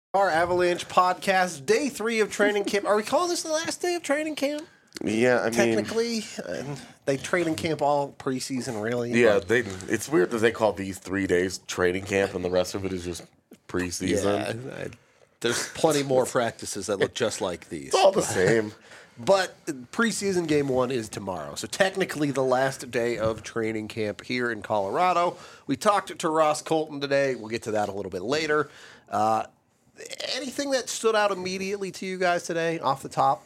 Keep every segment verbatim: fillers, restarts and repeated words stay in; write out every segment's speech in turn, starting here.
Our Avalanche podcast, day three of training camp. Are we calling this the last day of training camp? Yeah, I mean, technically, and they training camp all preseason, really. Yeah, but, they. It's weird that they call these three days training camp, and the rest of it is just preseason. Yeah, I, there's plenty more practices that look just like these. It's all the same. But preseason game one is tomorrow, so technically the last day of training camp here in Colorado. We talked to Ross Colton today. We'll get to that a little bit later. Uh, anything that stood out immediately to you guys today, off the top?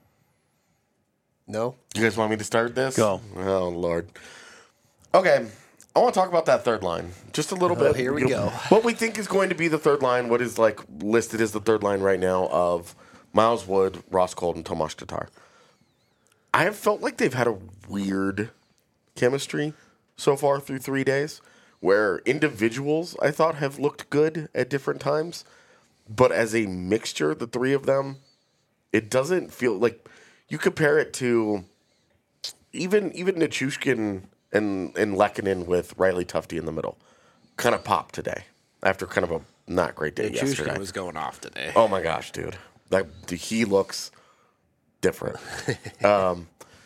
No? You guys want me to start this? Go. Oh, Lord. Okay. I want to talk about that third line just a little Oh, bit. here we You go. know, what we think is going to be the third line, what is like listed as the third line right now of Miles Wood, Ross Colton, Tomas Tatar. I have felt like they've had a weird chemistry so far through three days where individuals I thought have looked good at different times. But as a mixture, the three of them, it doesn't feel like you compare it to even even Nichushkin and, and Lehkonen with Riley Tufte in the middle. Kind of popped today after kind of a not great day yesterday. Nichushkin was going off today. Oh my gosh, dude. That he looks different. um,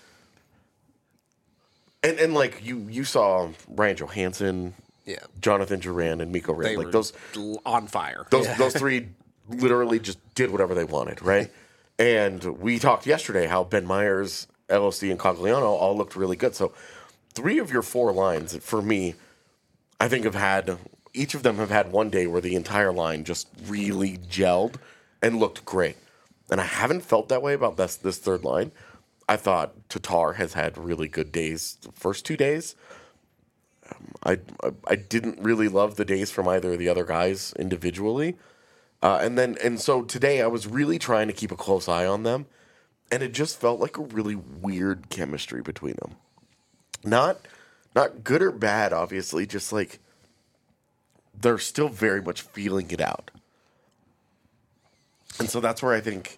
and and like you you saw Ryan Johansson, Yeah. Jonathan Duran, and Mikko They Rand. Like were those l- on fire. those those three literally just did whatever they wanted, right? And we talked yesterday how Ben Myers, L O C, and Cogliano all looked really good. So three of your four lines, for me, I think have had each of them have had one day where the entire line just really gelled and looked great. And I haven't felt that way about this this third line. I thought Tatar has had really good days the first two days. Um, I, I I didn't really love the days from either of the other guys individually. Uh, and then and so today I was really trying to keep a close eye on them, and it just felt like a really weird chemistry between them. Not not good or bad, obviously, just like they're still very much feeling it out. And so that's where I think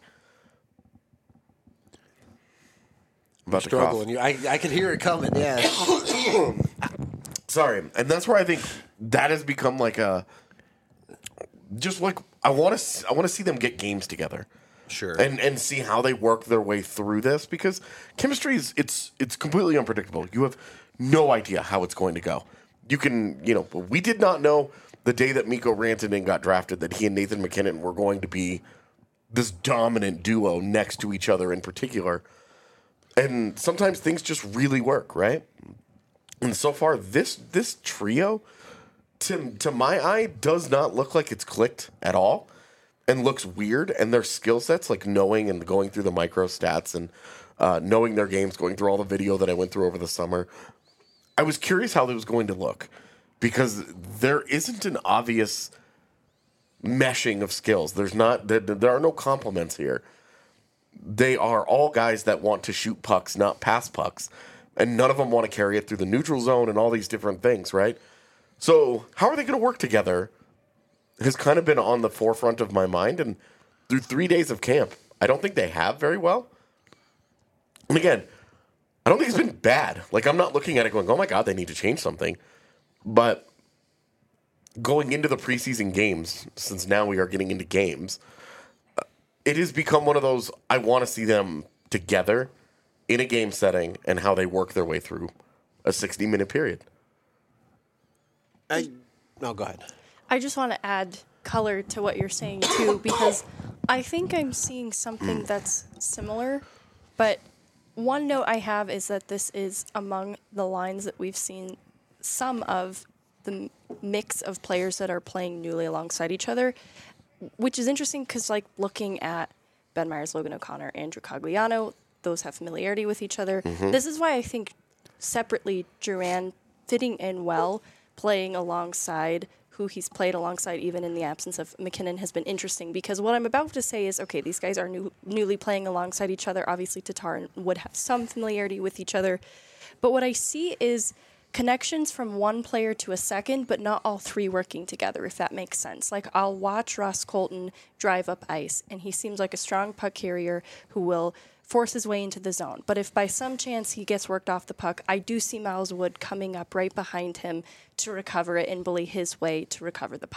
about the cough. Struggling. You, I, I could hear it coming, yeah. Sorry, and that's where I think that has become like a just like I want to I want to see them get games together. Sure. And and see how they work their way through this, because chemistry is it's it's completely unpredictable. You have no idea how it's going to go. You can, you know, we did not know the day that Mikko Rantanen got drafted that he and Nathan MacKinnon were going to be this dominant duo next to each other in particular. And sometimes things just really work, right? And so far, this this trio, to to my eye, does not look like it's clicked at all, and looks weird. And their skill sets, like knowing and going through the micro stats and uh, knowing their games, going through all the video that I went through over the summer, I was curious how it was going to look, because there isn't an obvious meshing of skills. There's not there, there are no compliments here. They are all guys that want to shoot pucks, not pass pucks. And none of them want to carry it through the neutral zone and all these different things, right? So how are they going to work together has kind of been on the forefront of my mind. And through three days of camp, I don't think they have very well. And again, I don't think it's been bad. Like, I'm not looking at it going, oh my God, they need to change something. But going into the preseason games, since now we are getting into games, it has become one of those, I want to see them together in a game setting and how they work their way through a sixty-minute period. I, no, go ahead. I just want to add color to what you're saying, too, because I think I'm seeing something that's similar. But one note I have is that this is among the lines that we've seen some of the mix of players that are playing newly alongside each other, which is interesting because, like, looking at Ben Myers, Logan O'Connor, Andrew Cogliano, those have familiarity with each other. Mm-hmm. This is why I think separately Duran fitting in well, playing alongside who he's played alongside even in the absence of MacKinnon has been interesting, because what I'm about to say is, okay, these guys are new, newly playing alongside each other. Obviously, Tatar and Wood have some familiarity with each other. But what I see is connections from one player to a second, but not all three working together, if that makes sense. Like, I'll watch Ross Colton drive up ice, and he seems like a strong puck carrier who will force his way into the zone. But if by some chance he gets worked off the puck, I do see Miles Wood coming up right behind him to recover it and bully his way to recover the puck.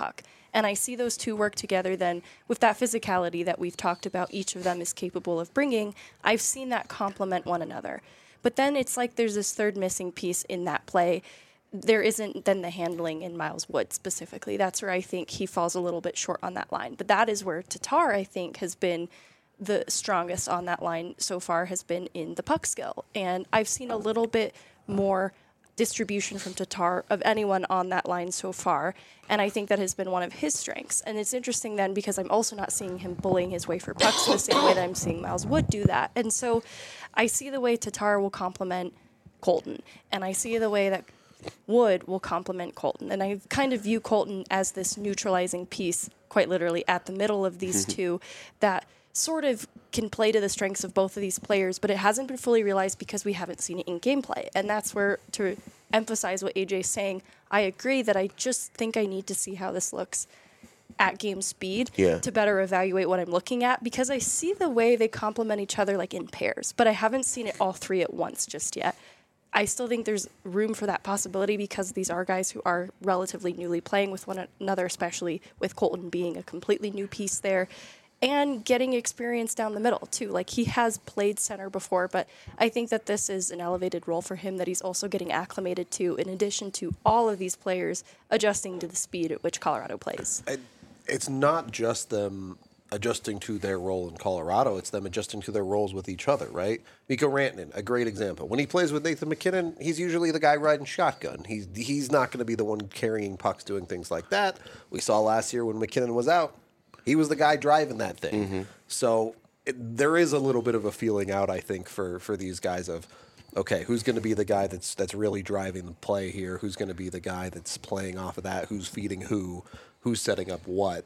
And I see those two work together then with that physicality that we've talked about each of them is capable of bringing. I've seen that complement one another. But then it's like there's this third missing piece in that play. There isn't then the handling in Miles Wood specifically. That's where I think he falls a little bit short on that line. But that is where Tatar, I think, has been the strongest on that line so far, has been in the puck skill. And I've seen a little bit more distribution from Tatar of anyone on that line so far. And I think that has been one of his strengths. And it's interesting then because I'm also not seeing him bullying his way for pucks the same way that I'm seeing Miles Wood do that. And so I see the way Tatar will complement Colton. And I see the way that Wood will complement Colton. And I kind of view Colton as this neutralizing piece, quite literally, at the middle of these two that sort of can play to the strengths of both of these players, but it hasn't been fully realized because we haven't seen it in gameplay. And that's where, to emphasize what A J's saying, I agree that I just think I need to see how this looks at game speed yeah. to better evaluate what I'm looking at, because I see the way they complement each other like in pairs, but I haven't seen it all three at once just yet. I still think there's room for that possibility because these are guys who are relatively newly playing with one another, especially with Colton being a completely new piece there. And getting experience down the middle, too. Like, he has played center before, but I think that this is an elevated role for him that he's also getting acclimated to, in addition to all of these players adjusting to the speed at which Colorado plays. I, it's not just them adjusting to their role in Colorado. It's them adjusting to their roles with each other, right? Mikko Rantanen, a great example. When he plays with Nathan MacKinnon, he's usually the guy riding shotgun. He's, he's not going to be the one carrying pucks, doing things like that. We saw last year when MacKinnon was out, he was the guy driving that thing. Mm-hmm. So it, there is a little bit of a feeling out, I think, for, for these guys of, okay, who's going to be the guy that's that's really driving the play here? Who's going to be the guy that's playing off of that? Who's feeding who? Who's setting up what?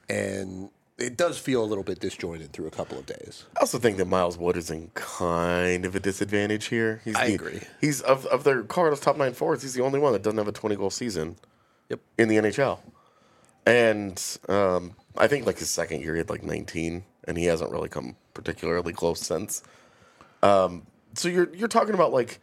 And it does feel a little bit disjointed through a couple of days. I also think that Miles Wood is in kind of a disadvantage here. He's I the, agree. He's of of their Colorado's top nine forwards. He's the only one that doesn't have a twenty goal season. Yep. In the N H L, and um, I think like his second year he had like nineteen, and he hasn't really come particularly close since. Um, so you're you're talking about like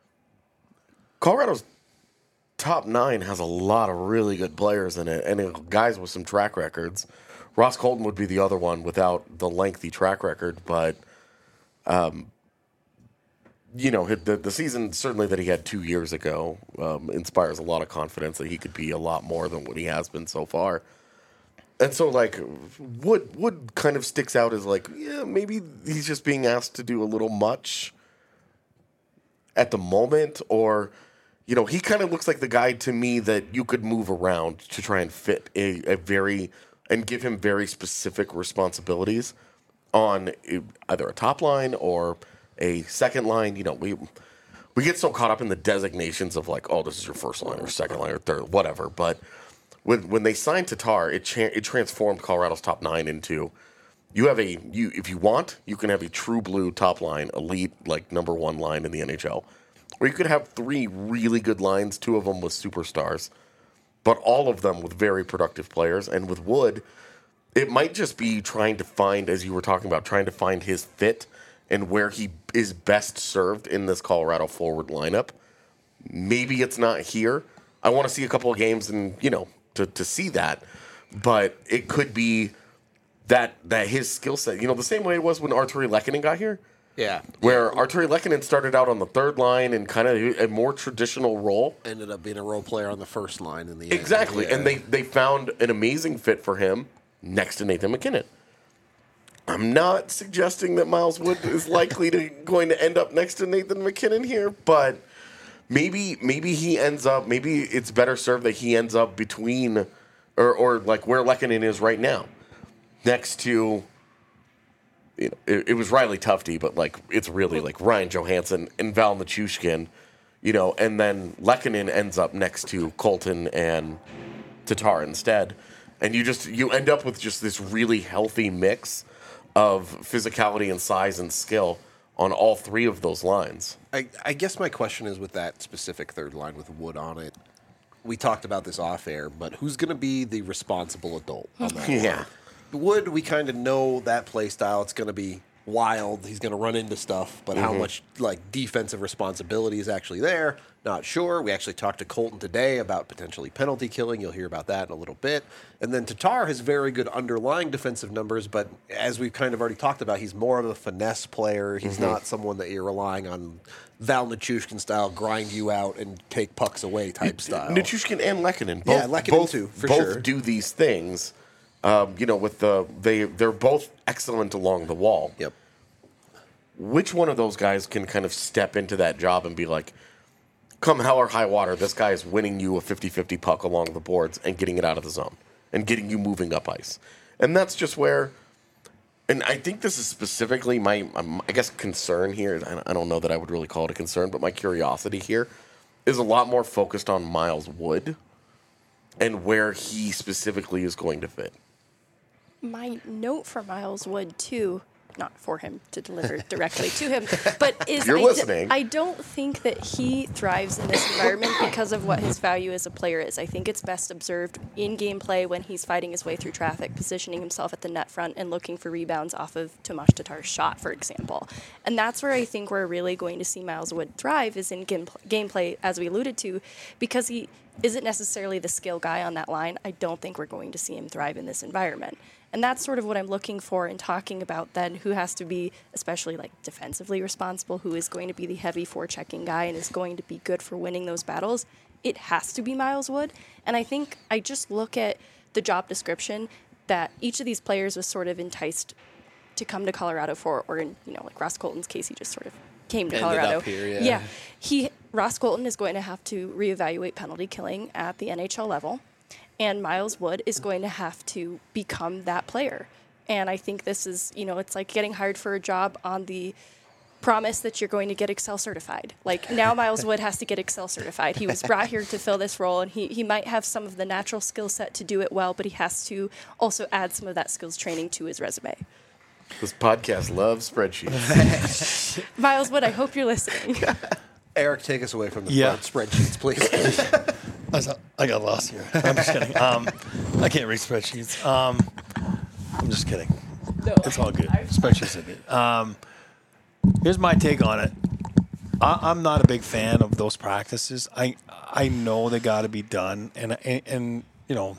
Colorado's top nine has a lot of really good players in it, and guys with some track records. Ross Colton would be the other one without the lengthy track record, but, um, you know, the, the season certainly that he had two years ago um, inspires a lot of confidence that he could be a lot more than what he has been so far. And so, like, Wood, Wood kind of sticks out as, like, yeah, maybe he's just being asked to do a little much at the moment, or, you know, he kind of looks like the guy to me that you could move around to try and fit a, a very... and give him very specific responsibilities on either a top line or a second line. You know, we we get so caught up in the designations of like, oh, this is your first line or second line or third, whatever. But when when they signed Tatar, it cha- it transformed Colorado's top nine into you have a you if you want, you can have a true blue top line, elite like number one line in the N H L, or you could have three really good lines, two of them with superstars. But all of them with very productive players. And with Wood, it might just be trying to find, as you were talking about, trying to find his fit and where he is best served in this Colorado forward lineup. Maybe it's not here. I want to see a couple of games and, you know, to, to see that. But it could be that that his skill set, you know, the same way it was when Artturi Lehkonen got here. Yeah. Where Artturi Lehkonen started out on the third line in kind of a more traditional role. Ended up being a role player on the first line in the end. Exactly. Yeah. And they, they found an amazing fit for him next to Nathan MacKinnon. I'm not suggesting that Miles Wood is likely to going to end up next to Nathan MacKinnon here, but maybe maybe he ends up, maybe it's better served that he ends up between, or, or like where Lehkonen is right now, next to... You know, it, it was Riley Tufte, but like it's really like Ryan Johansson and Val Nichushkin, you know, and then Lehkonen ends up next to Colton and Tatar instead, and you just you end up with just this really healthy mix of physicality and size and skill on all three of those lines. I, I guess my question is with that specific third line with Wood on it. We talked about this off air, but who's going to be the responsible adult on that Yeah. line? Wood, we kind of know that play style. It's going to be wild. He's going to run into stuff, but mm-hmm. how much like defensive responsibility is actually there? not sure. We actually talked to Colton today about potentially penalty killing. You'll hear about that in a little bit. And then Tatar has very good underlying defensive numbers, but as we've kind of already talked about, he's more of a finesse player. He's mm-hmm. not someone that you're relying on Val Nichushkin style, grind you out and take pucks away type style. Nichushkin and Lehkonen, both, yeah, Lehkonen both, too, for both sure. do these things. Um, you know, with the they they're both excellent along the wall. Yep. Which one of those guys can kind of step into that job and be like, come hell or high water, this guy is winning you a fifty-fifty puck along the boards and getting it out of the zone and getting you moving up ice. And that's just where, and I think this is specifically my, um, I guess, concern here. I don't know that I would really call it a concern, but my curiosity here is a lot more focused on Miles Wood and where he specifically is going to fit. My note for Miles Wood, too, not for him to deliver directly to him, but is You're I, listening. D- I don't think that he thrives in this environment because of what his value as a player is. I think it's best observed in gameplay when he's fighting his way through traffic, positioning himself at the net front and looking for rebounds off of Tomas Tatar's shot, for example. And that's where I think we're really going to see Miles Wood thrive is in game- gameplay, as we alluded to, because he isn't necessarily the skill guy on that line. I don't think we're going to see him thrive in this environment. And that's sort of what I'm looking for in talking about then who has to be, especially like defensively responsible, who is going to be the heavy forechecking guy and is going to be good for winning those battles. It has to be Miles Wood. And I think I just look at the job description that each of these players was sort of enticed to come to Colorado for, or in, you know, like Ross Colton's case, he just sort of came to Ended Colorado. up here, yeah. yeah. He Ross Colton is going to have to reevaluate penalty killing at the N H L level. And Miles Wood is going to have to become that player. And I think this is, you know, it's like getting hired for a job on the promise that you're going to get Excel certified. Like now Miles Wood has to get Excel certified. He was brought here to fill this role, and he, he might have some of the natural skill set to do it well, but he has to also add some of that skills training to his resume. This podcast loves spreadsheets. Miles Wood, I hope you're listening. Eric, take us away from the Yeah. spreadsheets, please. I, was, I got lost here. I'm just kidding. Um, I can't read spreadsheets. Um, I'm just kidding. No, It's all good. Spreadsheets are good. Um, here's my take on it. I, I'm not a big fan of those practices. I I know they got to be done, and, and and you know,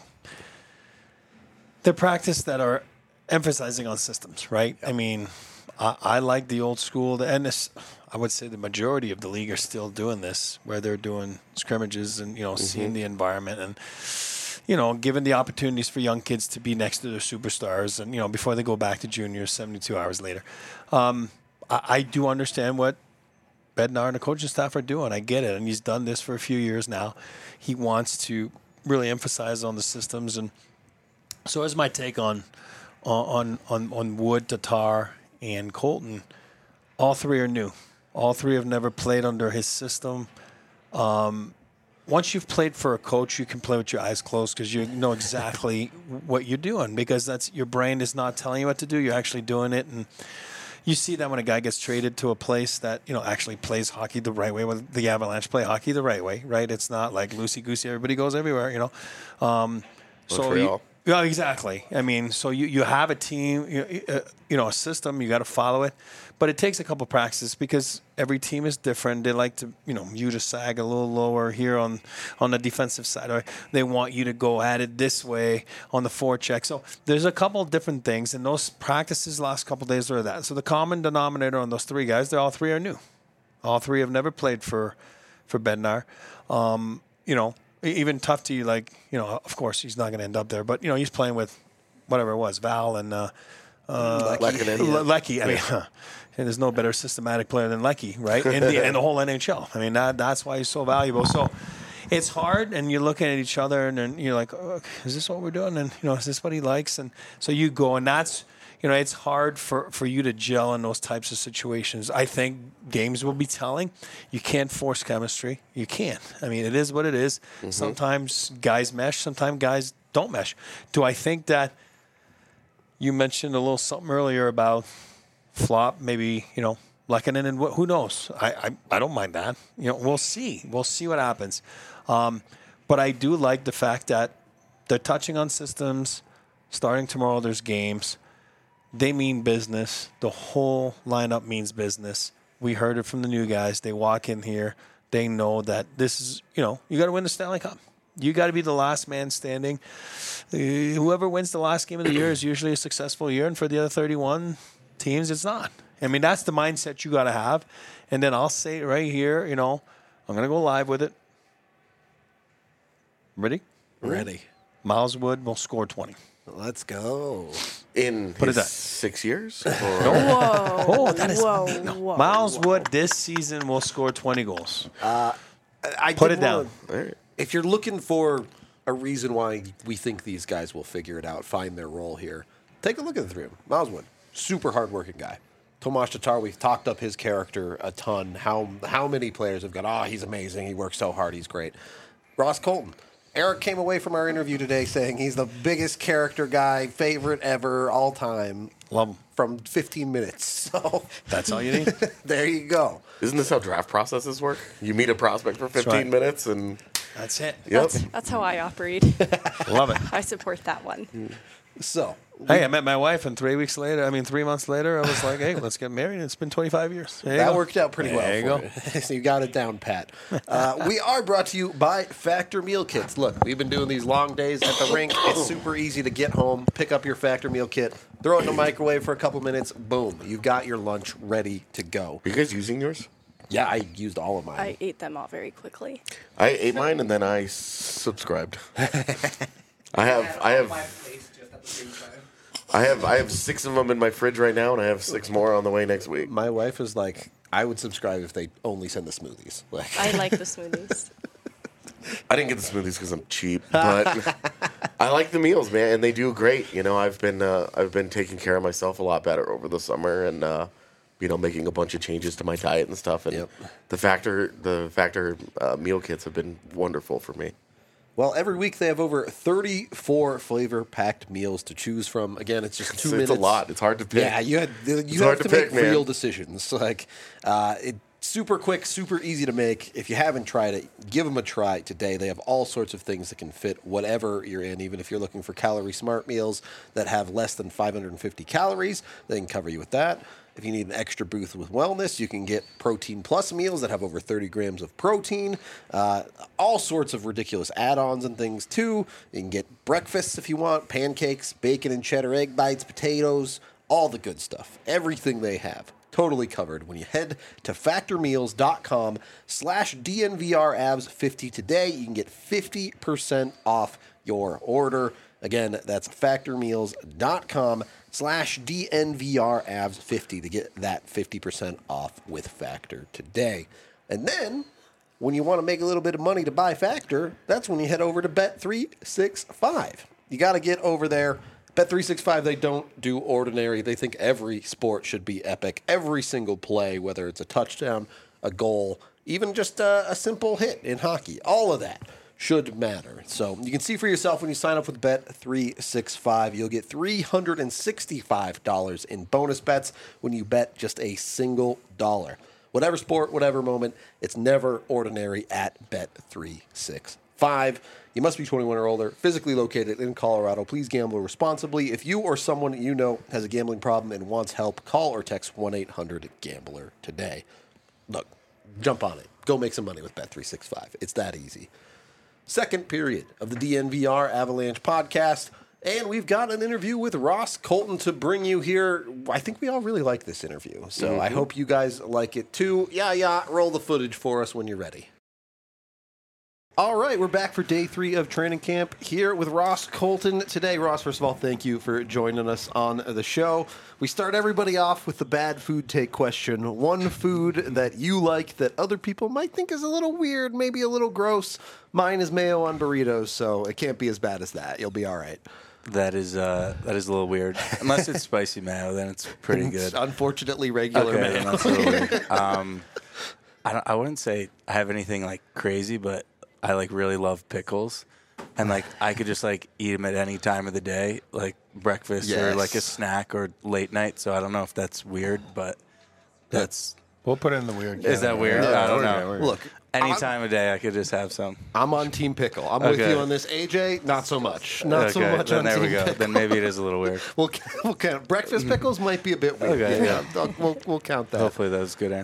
they're practice that are emphasizing on systems, right? I mean, I, I like the old school, and this. I would say the majority of the league are still doing this, where they're doing scrimmages and, you know, mm-hmm. seeing the environment and, you know, giving the opportunities for young kids to be next to their superstars and, you know, before they go back to juniors seventy-two hours later. Um, I, I do understand what Bednar and the coaching staff are doing. I get it. And he's done this for a few years now. He wants to really emphasize on the systems. And so here's my take on, on, on, on Wood, Tatar, and Colton. All three are new. All three have never played under his system. Um, once you've played for a coach, you can play with your eyes closed because you know exactly what you're doing because that's your brain is not telling you what to do. You're actually doing it. And you see that when a guy gets traded to a place that, you know, actually plays hockey the right way. When the Avalanche play hockey the right way, right? It's not like loosey-goosey. Everybody goes everywhere, you know. Um, so you, yeah, exactly. I mean, so you, you have a team, you, uh, you know, a system. You got to follow it. But it takes a couple practices because every team is different. They like to, you know, you to sag a little lower here on, on the defensive side. Or they want you to go at it this way on the forecheck. So there's a couple different things. And those practices last couple days are that. So the common denominator on those three guys, they're all three are new. All three have never played for, for Bednar. Um, you know, even Tufte, like, you know, of course he's not going to end up there. But, you know, he's playing with whatever it was, Val and uh, uh, Lecky. I mean, yeah. And there's no better systematic player than Lecky, right? In the, in the whole N H L. I mean, that, that's why he's so valuable. So it's hard, and you're looking at each other, and then you're like, oh, is this what we're doing? And, you know, is this what he likes? And so you go, and that's, you know, it's hard for, for you to gel in those types of situations. I think games will be telling. You can't force chemistry. You can't. I mean, it is what it is. Mm-hmm. Sometimes guys mesh. Sometimes guys don't mesh. Do I think that you mentioned a little something earlier about flop, maybe, you know, Lehkonen and wh- who knows? I, I I don't mind that. You know, we'll see. We'll see what happens. Um, but I do like the fact that they're touching on systems. Starting tomorrow, there's games. They mean business. The whole lineup means business. We heard it from the new guys. They walk in here. they know that this is, you know, you got to win the Stanley Cup. You got to be the last man standing. Uh, whoever wins the last game of the year is usually a successful year, and for the other thirty-one teams, it's not. I mean, that's the mindset you got to have. And then I'll say it right here, you know, I'm going to go live with it. Ready? Ready. Miles Wood will score twenty. Let's go. In Put his it that. six years? Or? Whoa. Oh, that is whoa, no. whoa, Miles whoa. Wood this season will score twenty goals. I Put did it down. wanna- If you're looking for a reason why we think these guys will figure it out, find their role here, take a look at the three of them. Miles Wood, super hardworking guy. Tomas Tatar, we've talked up his character a ton. How how many players have gone, oh, he's amazing. He works so hard. He's great. Ross Colton. Eric came away from our interview today saying he's the biggest character guy, favorite ever, all time. Love him. From fifteen minutes. So That's all you need. there you go. Isn't this how draft processes work? You meet a prospect for fifteen right. minutes and That's it. yep. That's, that's how I operate. Love it. I support that one. So Hey, I met my wife, and three weeks later, I mean, three months later, I was like, hey, let's get married. It's been twenty-five years. There you that go. worked out pretty well. There you for go. you. So you got it down, Pat. Uh, we are brought to you by Factor Meal Kits. Look, we've been doing these long days at the rink. It's super easy to get home, pick up your Factor Meal Kit, throw it in the microwave for a couple minutes. Boom, you've got your lunch ready to go. Are you guys using yours? Yeah, I used all of mine. I ate them all very quickly. I ate mine and then I subscribed. I have I have I have I have six of them in my fridge right now, and I have six more on the way next week. My wife is like, I would subscribe if they only send the smoothies. Like, I like the smoothies. I didn't get the smoothies because I'm cheap, but I like the meals, man, and they do great. You know, I've been uh, I've been taking care of myself a lot better over the summer, and uh, you know, making a bunch of changes to my diet and stuff. And Yep. the factor the factor uh, meal kits have been wonderful for me. well, every week they have over thirty-four flavor-packed meals to choose from. Again, it's just two It's, minutes. it's a lot. It's hard to pick. Yeah, you had you It's have hard to, to make pick, man. real decisions. Like, uh, it super quick, super easy to make. If you haven't tried it, give them a try today. They have all sorts of things that can fit whatever you're in. Even if you're looking for calorie smart meals that have less than five hundred fifty calories, they can cover you with that. If you need an extra boost with wellness, you can get Protein Plus meals that have over thirty grams of protein. Uh, all sorts of ridiculous add-ons and things, too. You can get breakfasts if you want, pancakes, bacon and cheddar egg bites, potatoes, all the good stuff. Everything they have. Totally covered when you head to factormeals.com slash DNVRAvs50 today. You can get fifty percent off your order. Again, that's factormeals.com slash DNVRAvs50 to get that fifty percent off with Factor today. And then, when you want to make a little bit of money to buy Factor, that's when you head over to Bet three sixty-five. You got to get over there. Bet three sixty-five, they don't do ordinary. They think every sport should be epic. Every single play, whether it's a touchdown, a goal, even just a, a simple hit in hockey, all of that should matter. So you can see for yourself when you sign up with Bet three sixty-five, you'll get three hundred sixty-five dollars in bonus bets when you bet just a single dollar. Whatever sport, whatever moment, it's never ordinary at Bet three sixty-five. You must be twenty-one or older, physically located in Colorado. Please gamble responsibly. If you or someone you know has a gambling problem and wants help, call or text one eight hundred gambler today. Look, jump on it. Go make some money with Bet three sixty-five. It's that easy. Second period of the D N V R Avalanche podcast, and we've got an interview with Ross Colton to bring you here. I think we all really like this interview, so mm-hmm. I hope you guys like it too. Yeah, yeah, roll the footage for us when you're ready. All right, we're back for day three of training camp here with Ross Colton today. Ross, first of all, thank you for joining us on the show. We start everybody off with the bad food take question. One food that you like that other people might think is a little weird, maybe a little gross. Mine is mayo on burritos, so it can't be as bad as that. You'll be all right. That is uh, that is a little weird. Unless it's spicy mayo, then it's pretty good. It's unfortunately regular okay, mayo. then that's a little weird. Um, I don't, I wouldn't say I have anything like crazy, but I like really love pickles, and like I could just like eat them at any time of the day, like breakfast Yes. or like a snack or late night. So I don't know if that's weird, but that's We'll put it in the weird. is that weird? I don't know. Look, Any I'm- time of day, I could just have some. I'm on Team Pickle. I'm with Okay. you on this. A J, not so much. Not so Okay, much then on there Team we go. Pickle. Then maybe it is a little weird. We'll, we'll count. Breakfast pickles might be a bit weird. Okay, yeah. We'll, we'll, we'll count that. Hopefully that was a good answer.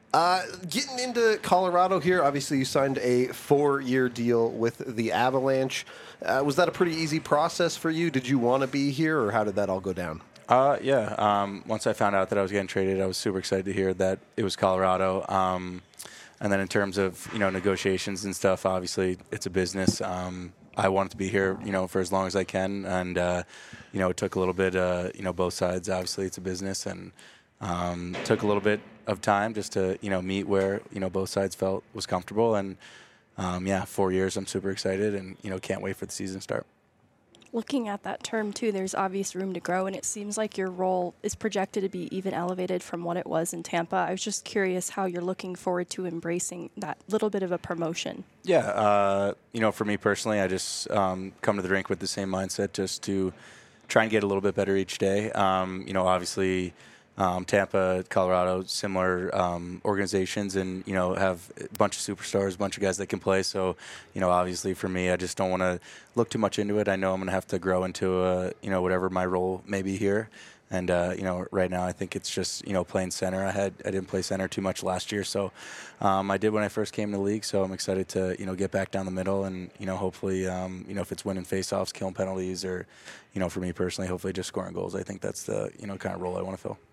Uh, getting into Colorado here, obviously you signed a four-year deal with the Avalanche. Uh, was that a pretty easy process for you? Did you want to be here, or how did that all go down? Uh, yeah. Um, once I found out that I was getting traded, I was super excited to hear that it was Colorado. Um, and then in terms of, you know, negotiations and stuff, obviously it's a business. Um, I wanted to be here, you know, for as long as I can. And, uh, you know, it took a little bit, uh, you know, both sides. Obviously it's a business, and um, took a little bit of time just to, you know, meet where, you know, both sides felt was comfortable. And, um, yeah, four years, I'm super excited and, you know, can't wait for the season to start. Looking at that term, too, there's obvious room to grow, and it seems like your role is projected to be even elevated from what it was in Tampa. I was just curious how you're looking forward to embracing that little bit of a promotion. Yeah, uh, you know, for me personally, I just um, come to the rink with the same mindset, just to try and get a little bit better each day. Um, you know, obviously, um, Tampa, Colorado, similar um, organizations, and you know, have a bunch of superstars, a bunch of guys that can play. So, you know, obviously for me, I just don't want to look too much into it. I know I'm going to have to grow into a, you know, whatever my role may be here. And, uh, you know, right now I think it's just, you know, playing center. I had I didn't play center too much last year, so um, I did when I first came to the league. So I'm excited to, you know, get back down the middle and, you know, hopefully, um, you know, if it's winning faceoffs, killing penalties, or, you know, for me personally, hopefully just scoring goals. I think that's the, you know, kind of role I want to fill.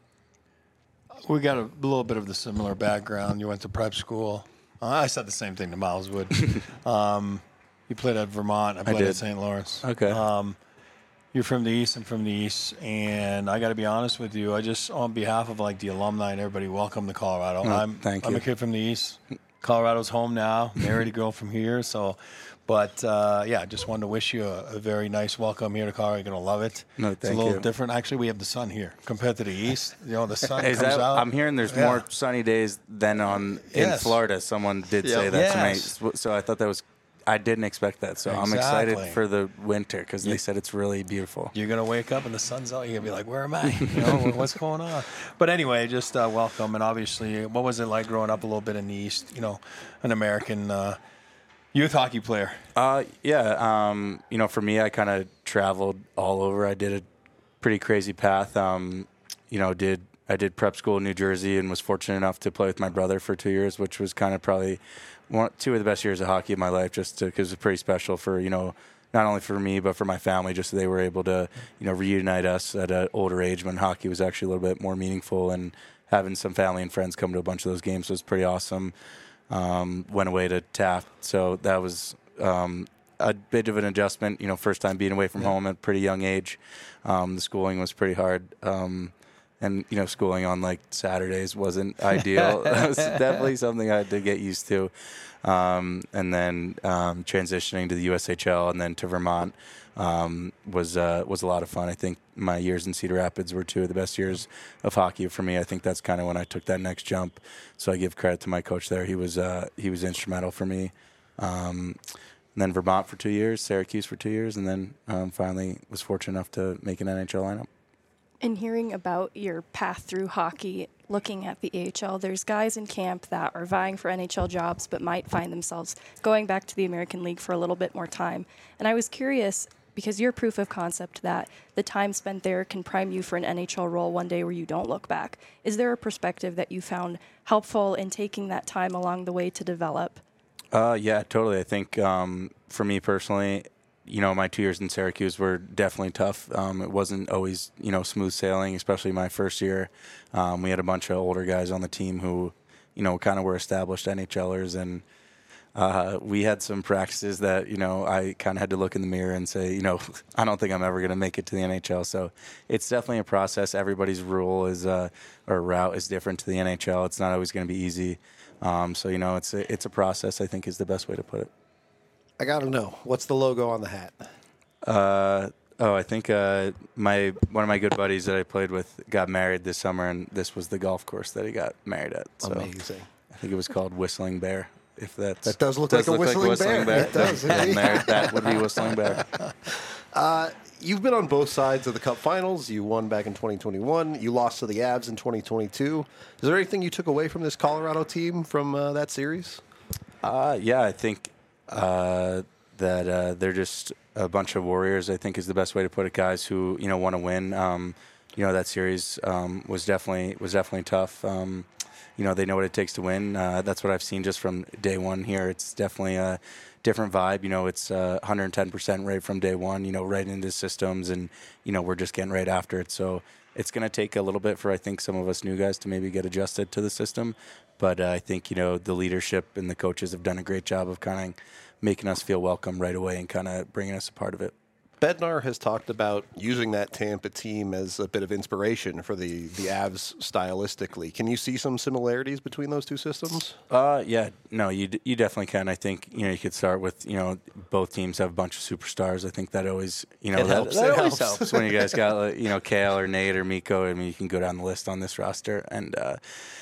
We got a little bit of the similar background. You went to prep school. Uh, I said the same thing to Miles Wood. um, you played at Vermont. I played did. at Saint Lawrence. Okay. Um, you're from the East. I'm from the East. And I got to be honest with you. I just, on behalf of like the alumni and everybody, welcome to Colorado. Oh, I'm, thank I'm you. a kid from the East. Colorado's home now. Married a girl from here. So, but uh, yeah, just wanted to wish you a, a very nice welcome here to Colorado. You're gonna love it. No, it's a thank little you. different. Actually, we have the sun here compared to the East. You know, the sun Is comes that, out. I'm hearing there's Yeah. more sunny days than on in Yes. Florida. Someone did Yeah. say that Yes. to me. So I thought that was, I didn't expect that. So I'm excited Exactly. for the winter because they said it's really beautiful. You're gonna wake up and the sun's out. You're gonna be like, "Where am I? You know, what's going on?" But anyway, just uh, welcome. And obviously, what was it like growing up a little bit in the East? You know, an American uh, youth hockey player. Uh, yeah. Um, you know, for me, I kind of traveled all over. I did a pretty crazy path. Um, you know, did I did prep school in New Jersey and was fortunate enough to play with my brother for two years, which was kind of probably one, two of the best years of hockey in my life, just because it was pretty special for, you know, not only for me, but for my family, just so they were able to, you know, reunite us at an older age when hockey was actually a little bit more meaningful, and having some family and friends come to a bunch of those games was pretty awesome. Um, went away to Taft, so that was um, a bit of an adjustment. You know, first time being away from Yeah. home at a pretty young age. Um, the schooling was pretty hard, um, and you know, schooling on like Saturdays wasn't ideal. That was definitely something I had to get used to. Um, and then um, transitioning to the U S H L and then to Vermont um, was uh, was a lot of fun. I think my years in Cedar Rapids were two of the best years of hockey for me. I think that's kind of when I took that next jump. So I give credit to my coach there. He was uh, he was instrumental for me. Um, and then Vermont for two years, Syracuse for two years, and then um, finally was fortunate enough to make an N H L lineup. In hearing about your path through hockey, looking at the A H L, there's guys in camp that are vying for N H L jobs but might find themselves going back to the American League for a little bit more time. And I was curious, because you're proof of concept that the time spent there can prime you for an N H L role one day where you don't look back. Is there a perspective that you found helpful in taking that time along the way to develop? Uh, yeah, totally. I think um, for me personally, you know, my two years in Syracuse were definitely tough. Um, it wasn't always, you know, smooth sailing, especially my first year. Um, we had a bunch of older guys on the team who, you know, kind of were established NHLers, and uh, we had some practices that, you know, I kind of had to look in the mirror and say, you know, I don't think I'm ever going to make it to the N H L. So it's definitely a process. Everybody's rule is, uh, or route is different to the N H L. It's not always going to be easy. Um, so, you know, it's a, it's a process, I think, is the best way to put it. I got to know, what's the logo on the hat? Uh, oh, I think uh, my one of my good buddies that I played with got married this summer, and this was the golf course that he got married at. So Amazing. I think it was called Whistling Bear. If that's, That does look like a whistling bear. It does, Yeah, indeed. Mar- that would be Whistling Bear. You've been on both sides of the Cup Finals. You won back in twenty twenty-one. You lost to the Avs in twenty twenty-two. Is there anything you took away from this Colorado team from uh, that series? Uh, yeah, I think uh, that uh, they're just a bunch of warriors, I think is the best way to put it. Guys who, you know, want to win. Um, you know, that series um, was definitely was definitely tough. Um, you know, they know what it takes to win. Uh, that's what I've seen just from day one here. It's definitely a different vibe. You know, it's uh, one hundred ten percent right from day one, you know, right into systems, and, you know, we're just getting right after it. So it's going to take a little bit for, I think, some of us new guys to maybe get adjusted to the system. But uh, I think, you know, the leadership and the coaches have done a great job of kind of making us feel welcome right away and kind of bringing us a part of it. Bednar has talked about using that Tampa team as a bit of inspiration for the, the Avs stylistically. Can you see some similarities between those two systems? Uh, yeah, no, you d- you definitely can. I think, you know, you could start with, you know, both teams have a bunch of superstars. I think that always, you know, It that, helps. that It always helps. helps when you guys got, like, you know, Kale or Nate or Mikko. I mean, you can go down the list on this roster. And uh,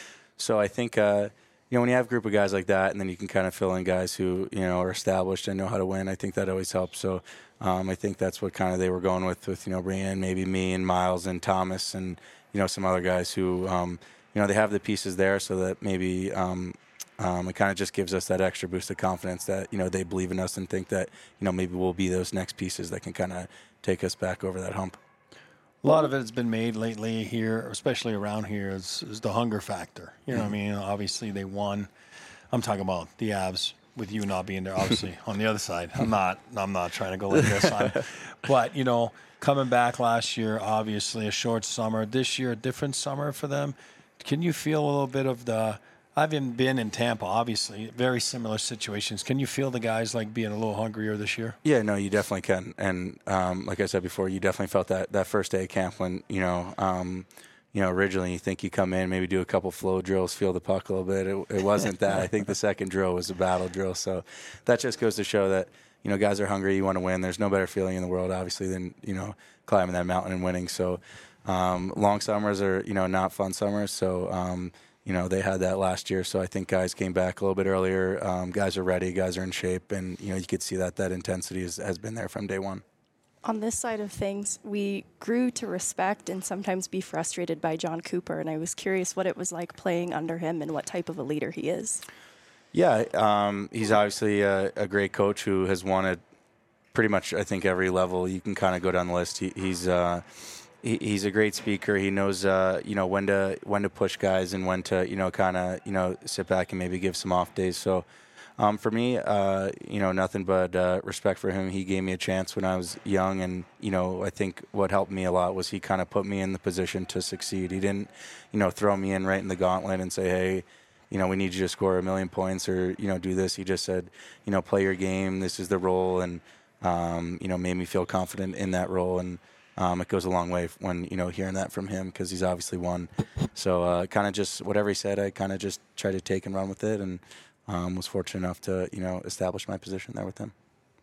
so I think, uh, you know, when you have a group of guys like that, and then you can kind of fill in guys who, you know, are established and know how to win, I think that always helps. So um, I think that's what kind of they were going with, with, you know, bringing in maybe me and Miles and Thomas and, you know, some other guys who, um, you know, they have the pieces there so that maybe um, um, it kind of just gives us that extra boost of confidence that, you know, they believe in us and think that, you know, maybe we'll be those next pieces that can kind of take us back over that hump. A lot of it has been made lately here, especially around here, is, is the hunger factor. You know what I mean? Obviously, they won. I'm talking about the Avs with you not being there, obviously, on the other side. I'm not I'm not trying to go like this on. But, you know, coming back last year, obviously, a short summer. This year, a different summer for them. Can you feel a little bit of the – I haven't been in Tampa, obviously, very similar situations. Can you feel the guys, like, being a little hungrier this year? Yeah, no, you definitely can. And um, like I said before, you definitely felt that that first day of camp when, you know, um, you know, originally you think you come in, maybe do a couple flow drills, feel the puck a little bit. It, it wasn't that. I think the second drill was a battle drill. So that just goes to show that, you know, guys are hungry, you want to win. There's no better feeling in the world, obviously, than, you know, climbing that mountain and winning. So um, long summers are, you know, not fun summers. So, um, you know, they had that last year, so I think guys came back a little bit earlier. Um, guys are ready, guys are in shape, and, you know, you could see that that intensity is, has been there from day one. On this side of things, we grew to respect and sometimes be frustrated by John Cooper, and I was curious what it was like playing under him and what type of a leader he is. Yeah, um, he's obviously a, a great coach who has won at pretty much, I think, every level. You can kind of go down the list. He, he's uh, he, he's a great speaker. He knows, uh, you know, when to when to push guys and when to, you know, kind of, you know, sit back and maybe give some off days. So um, for me, uh, you know, nothing but uh, respect for him. He gave me a chance when I was young, and, you know, I think what helped me a lot was he kind of put me in the position to succeed. He didn't, you know, throw me in right in the gauntlet and say, hey, you know, we need you to score a million points or, you know, do this. He just said, you know, play your game. This is the role, and um, you know, made me feel confident in that role. And Um, it goes a long way when, you know, hearing that from him, because he's obviously won. So uh, kind of just whatever he said, I kind of just tried to take and run with it, and um, was fortunate enough to, you know, establish my position there with him.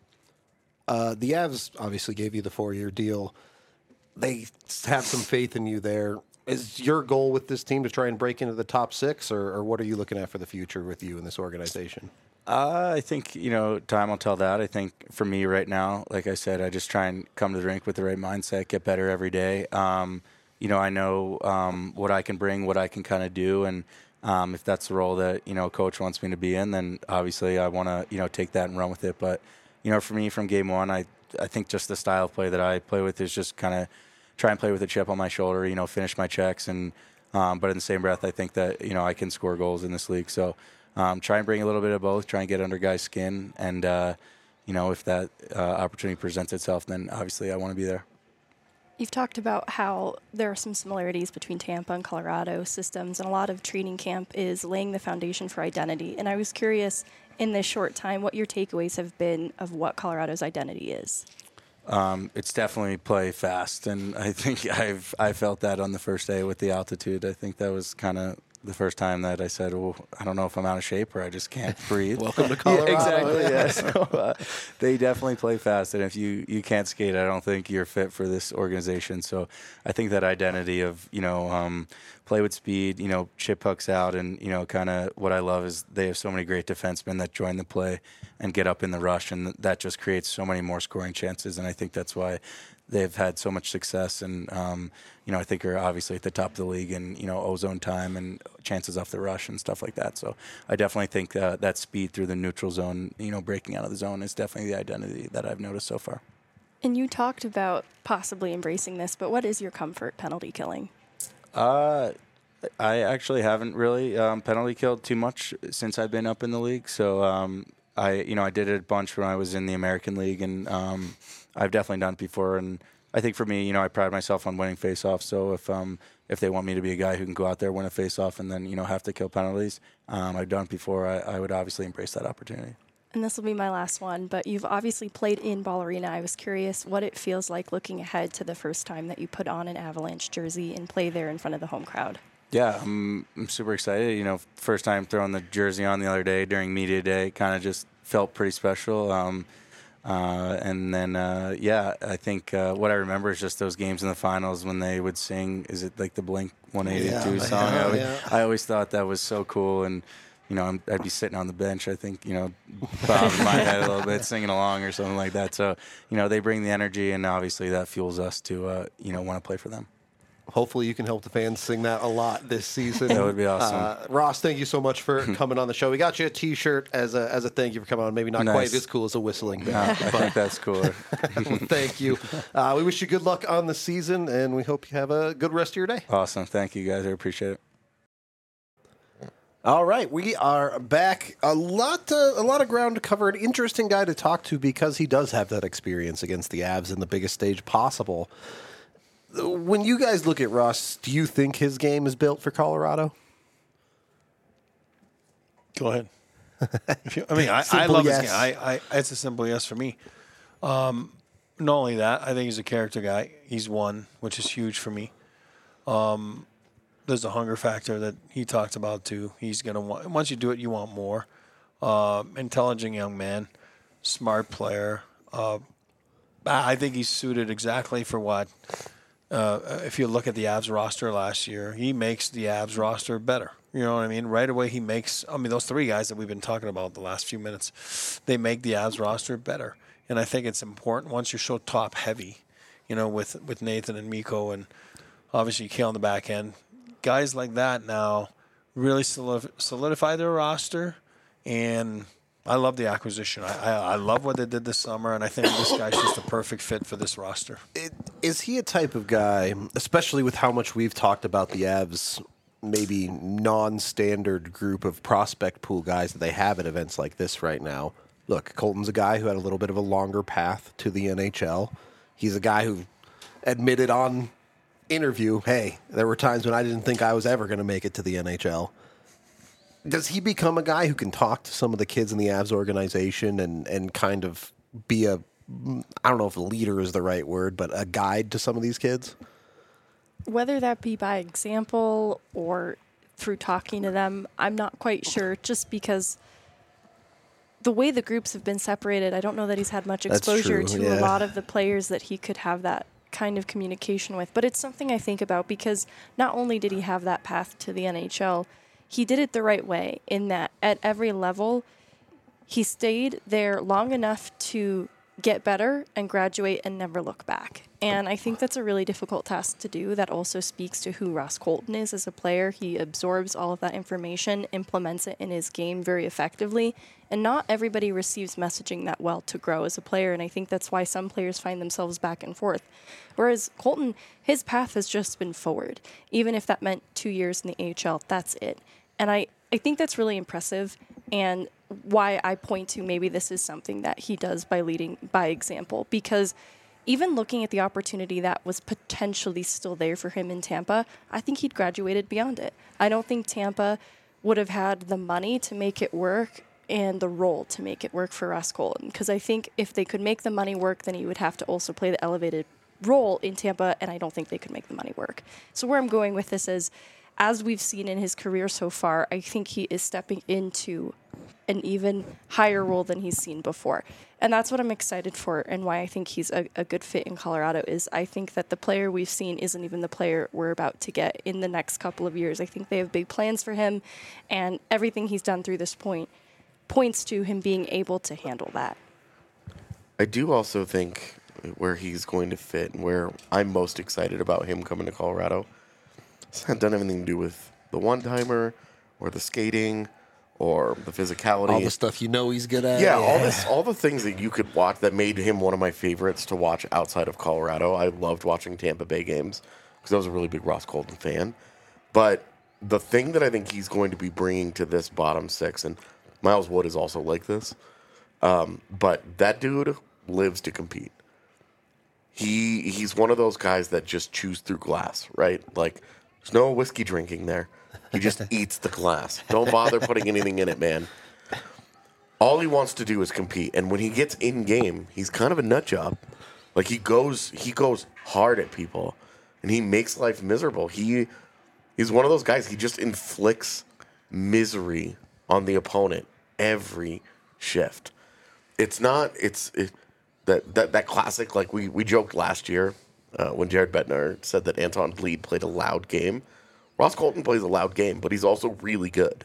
Uh, the Avs obviously gave you the four-year deal. They have some faith in you there. Is your goal with this team to try and break into the top six, or, or what are you looking at for the future with you in this organization? Uh, I think, you know, time will tell that. I think for me right now, like I said, I just try and come to the rink with the right mindset, get better every day. Um, you know, I know um, what I can bring, what I can kind of do, and um, if that's the role that, you know, coach wants me to be in, then obviously I want to, you know, take that and run with it. But, you know, for me from game one, I, I think just the style of play that I play with is just kind of try and play with a chip on my shoulder, you know, finish my checks. And um, but in the same breath, I think that, you know, I can score goals in this league. So um, try and bring a little bit of both, try and get under guys' skin. And, uh, you know, if that uh, opportunity presents itself, then obviously I want to be there. You've talked about how there are some similarities between Tampa and Colorado systems, and a lot of training camp is laying the foundation for identity. And I was curious, in this short time, what your takeaways have been of what Colorado's identity is. Um, it's definitely play fast, and I think I've I felt that on the first day with the altitude. I think that was kind of the first time that I said, "Oh, I don't know if I'm out of shape or I just can't breathe." Welcome to Colorado. Yeah, exactly. Yeah. So uh, they definitely play fast, and if you, you can't skate, I don't think you're fit for this organization. So I think that identity of, you know, um, play with speed, you know, chip pucks out, and, you know, kind of what I love is they have so many great defensemen that join the play and get up in the rush, and that just creates so many more scoring chances. And I think that's why they've had so much success, and um, you know, I think are obviously at the top of the league in, you know, ozone time and chances off the rush and stuff like that. So I definitely think uh, that speed through the neutral zone, you know, breaking out of the zone is definitely the identity that I've noticed so far. And you talked about possibly embracing this, but what is your comfort penalty killing? Uh, I actually haven't really um, penalty killed too much since I've been up in the league. So um, I, you know, I did it a bunch when I was in the American League, and um, I've definitely done it before. And I think for me, you know, I pride myself on winning faceoffs. So if um, if they want me to be a guy who can go out there, win a faceoff, and then you know have to kill penalties, um, I've done it before. I, I would obviously embrace that opportunity. And this will be my last one, but you've obviously played in Ball Arena. I was curious what it feels like looking ahead to the first time that you put on an Avalanche jersey and play there in front of the home crowd. Yeah, I'm, I'm super excited. You know, first time throwing the jersey on the other day during media day, kind of just felt pretty special. Um, uh, and then, uh, yeah, I think uh, what I remember is just those games in the finals when they would sing, is it like the Blink one eighty-two Yeah, song? yeah, I, would, yeah. I always thought that was so cool. And, you know, I'm, I'd be sitting on the bench, I think, you know, bobbing my head a little bit, singing along or something like that. So, you know, they bring the energy, and obviously that fuels us to, uh, you know, want to play for them. Hopefully you can help the fans sing that a lot this season. That would be awesome. Uh, Ross, thank you so much for coming on the show. We got you a T-shirt as a as a thank you for coming on. Maybe not Nice. quite as cool as a whistling. Yeah, I think that's cooler. Thank you. Uh, we wish you good luck on the season, and we hope you have a good rest of your day. Awesome. Thank you, guys. I appreciate it. All right, we are back. A lot, uh, a lot of ground to cover. An interesting guy to talk to because he does have that experience against the Avs in the biggest stage possible. When you guys look at Ross, do you think his game is built for Colorado? Go ahead. If you, I mean, I, I Simple love yes. his game. I, I, it's a simple yes for me. Um, not only that, I think he's a character guy. He's one, which is huge for me. Um, there's a hunger factor that he talked about too. He's gonna want. Once you do it, you want more. Uh, intelligent young man, smart player. Uh, I think he's suited exactly for what. Uh, if you look at the Avs roster last year, he makes the Avs roster better. You know what I mean? Right away, he makes. I mean, those three guys that we've been talking about the last few minutes, they make the Avs roster better. And I think it's important once you're so top heavy, you know, with with Nathan and Mikko and obviously Kale on the back end, guys like that now really solid- solidify their roster. And I love the acquisition. I, I I love what they did this summer, and I think this guy's just a perfect fit for this roster. It, is he a type of guy, especially with how much we've talked about the Avs, maybe non-standard group of prospect pool guys that they have at events like this right now? Look, Colton's a guy who had a little bit of a longer path to the N H L. He's a guy who admitted on interview, hey, there were times when I didn't think I was ever going to make it to the N H L. Does he become a guy who can talk to some of the kids in the Avs organization and, and kind of be a, I don't know if a leader is the right word, but a guide to some of these kids? Whether that be by example or through talking to them, I'm not quite sure, just because the way the groups have been separated, I don't know that he's had much That's exposure true, to yeah. a lot of the players that he could have that kind of communication with. But it's something I think about because not only did he have that path to the N H L, he did it the right way in that at every level, he stayed there long enough to get better and graduate and never look back. And I think that's a really difficult task to do. That also speaks to who Ross Colton is as a player. He absorbs all of that information, implements it in his game very effectively, and not everybody receives messaging that well to grow as a player, and I think that's why some players find themselves back and forth. Whereas Colton, his path has just been forward. Even if that meant two years in the A H L, that's it. And I, I think that's really impressive, and why I point to maybe this is something that he does by leading by example, because even looking at the opportunity that was potentially still there for him in Tampa, I think he'd graduated beyond it. I don't think Tampa would have had the money to make it work and the role to make it work for Ross Colton, because I think if they could make the money work, then he would have to also play the elevated role in Tampa, and I don't think they could make the money work. So where I'm going with this is, as we've seen in his career so far, I think he is stepping into an even higher role than he's seen before. And that's what I'm excited for, and why I think he's a, a good fit in Colorado is I think that the player we've seen isn't even the player we're about to get in the next couple of years. I think they have big plans for him, and everything he's done through this point points to him being able to handle that. I do also think where he's going to fit and where I'm most excited about him coming to Colorado, it's not done anything to do with the one-timer or the skating or the physicality. All the stuff you know he's good at. Yeah, all this, all the things that you could watch that made him one of my favorites to watch outside of Colorado. I loved watching Tampa Bay games because I was a really big Ross Colton fan. But the thing that I think he's going to be bringing to this bottom six, and Miles Wood is also like this, um, but that dude lives to compete. He he's one of those guys that just chews through glass, right? Like, there's no whiskey drinking there. He just eats the glass. Don't bother putting anything in it, man. All he wants to do is compete, and when he gets in game, he's kind of a nut job. Like he goes he goes hard at people, and he makes life miserable. He he's one of those guys. He just inflicts misery on the opponent every shift. It's not it's it, that that that classic, like we we joked last year uh, when Jared Bednar said that Anton Bleed played a loud game. Ross Colton plays a loud game, but he's also really good.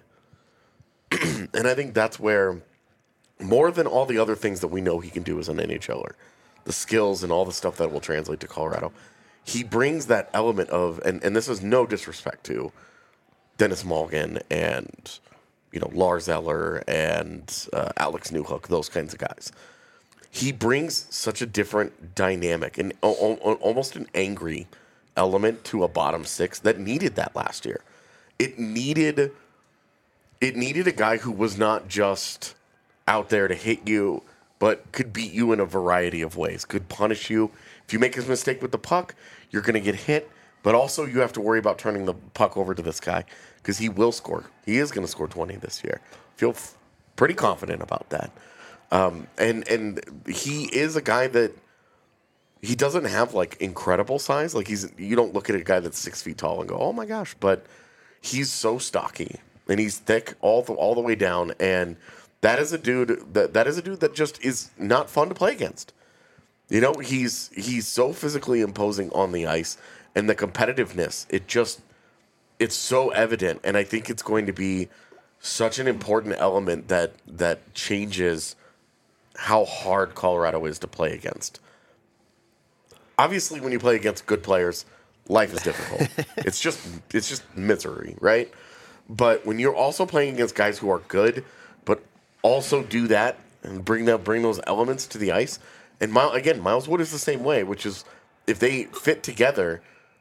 And I think that's where, more than all the other things that we know he can do as an NHLer, the skills and all the stuff that will translate to Colorado, he brings that element of, and, and this is no disrespect to Dennis Malgin and, you know, Lars Eller and uh, Alex Newhook, those kinds of guys. He brings such a different dynamic and o- o- almost an angry element to a bottom six that needed that last year. It needed it needed a guy who was not just out there to hit you, but could beat you in a variety of ways, could punish you. If you make a mistake with the puck, you're going to get hit, but also you have to worry about turning the puck over to this guy because he will score. He is going to score twenty this year. Feel f- pretty confident about that. Um, and and he is a guy that he doesn't have like incredible size. Like he's you don't look at a guy that's six feet tall and go, oh my gosh, but he's so stocky and he's thick all the all the way down. And that is a dude that that is a dude that just is not fun to play against. You know, he's he's so physically imposing on the ice, and the competitiveness, it just it's so evident. And I think it's going to be such an important element that that changes how hard Colorado is to play against. Obviously, when you play against good players, life is difficult. it's just it's just misery, right? But when you're also playing against guys who are good, but also do that and bring that bring those elements to the ice, and Miles, again, Miles Wood is the same way, which is if they fit together,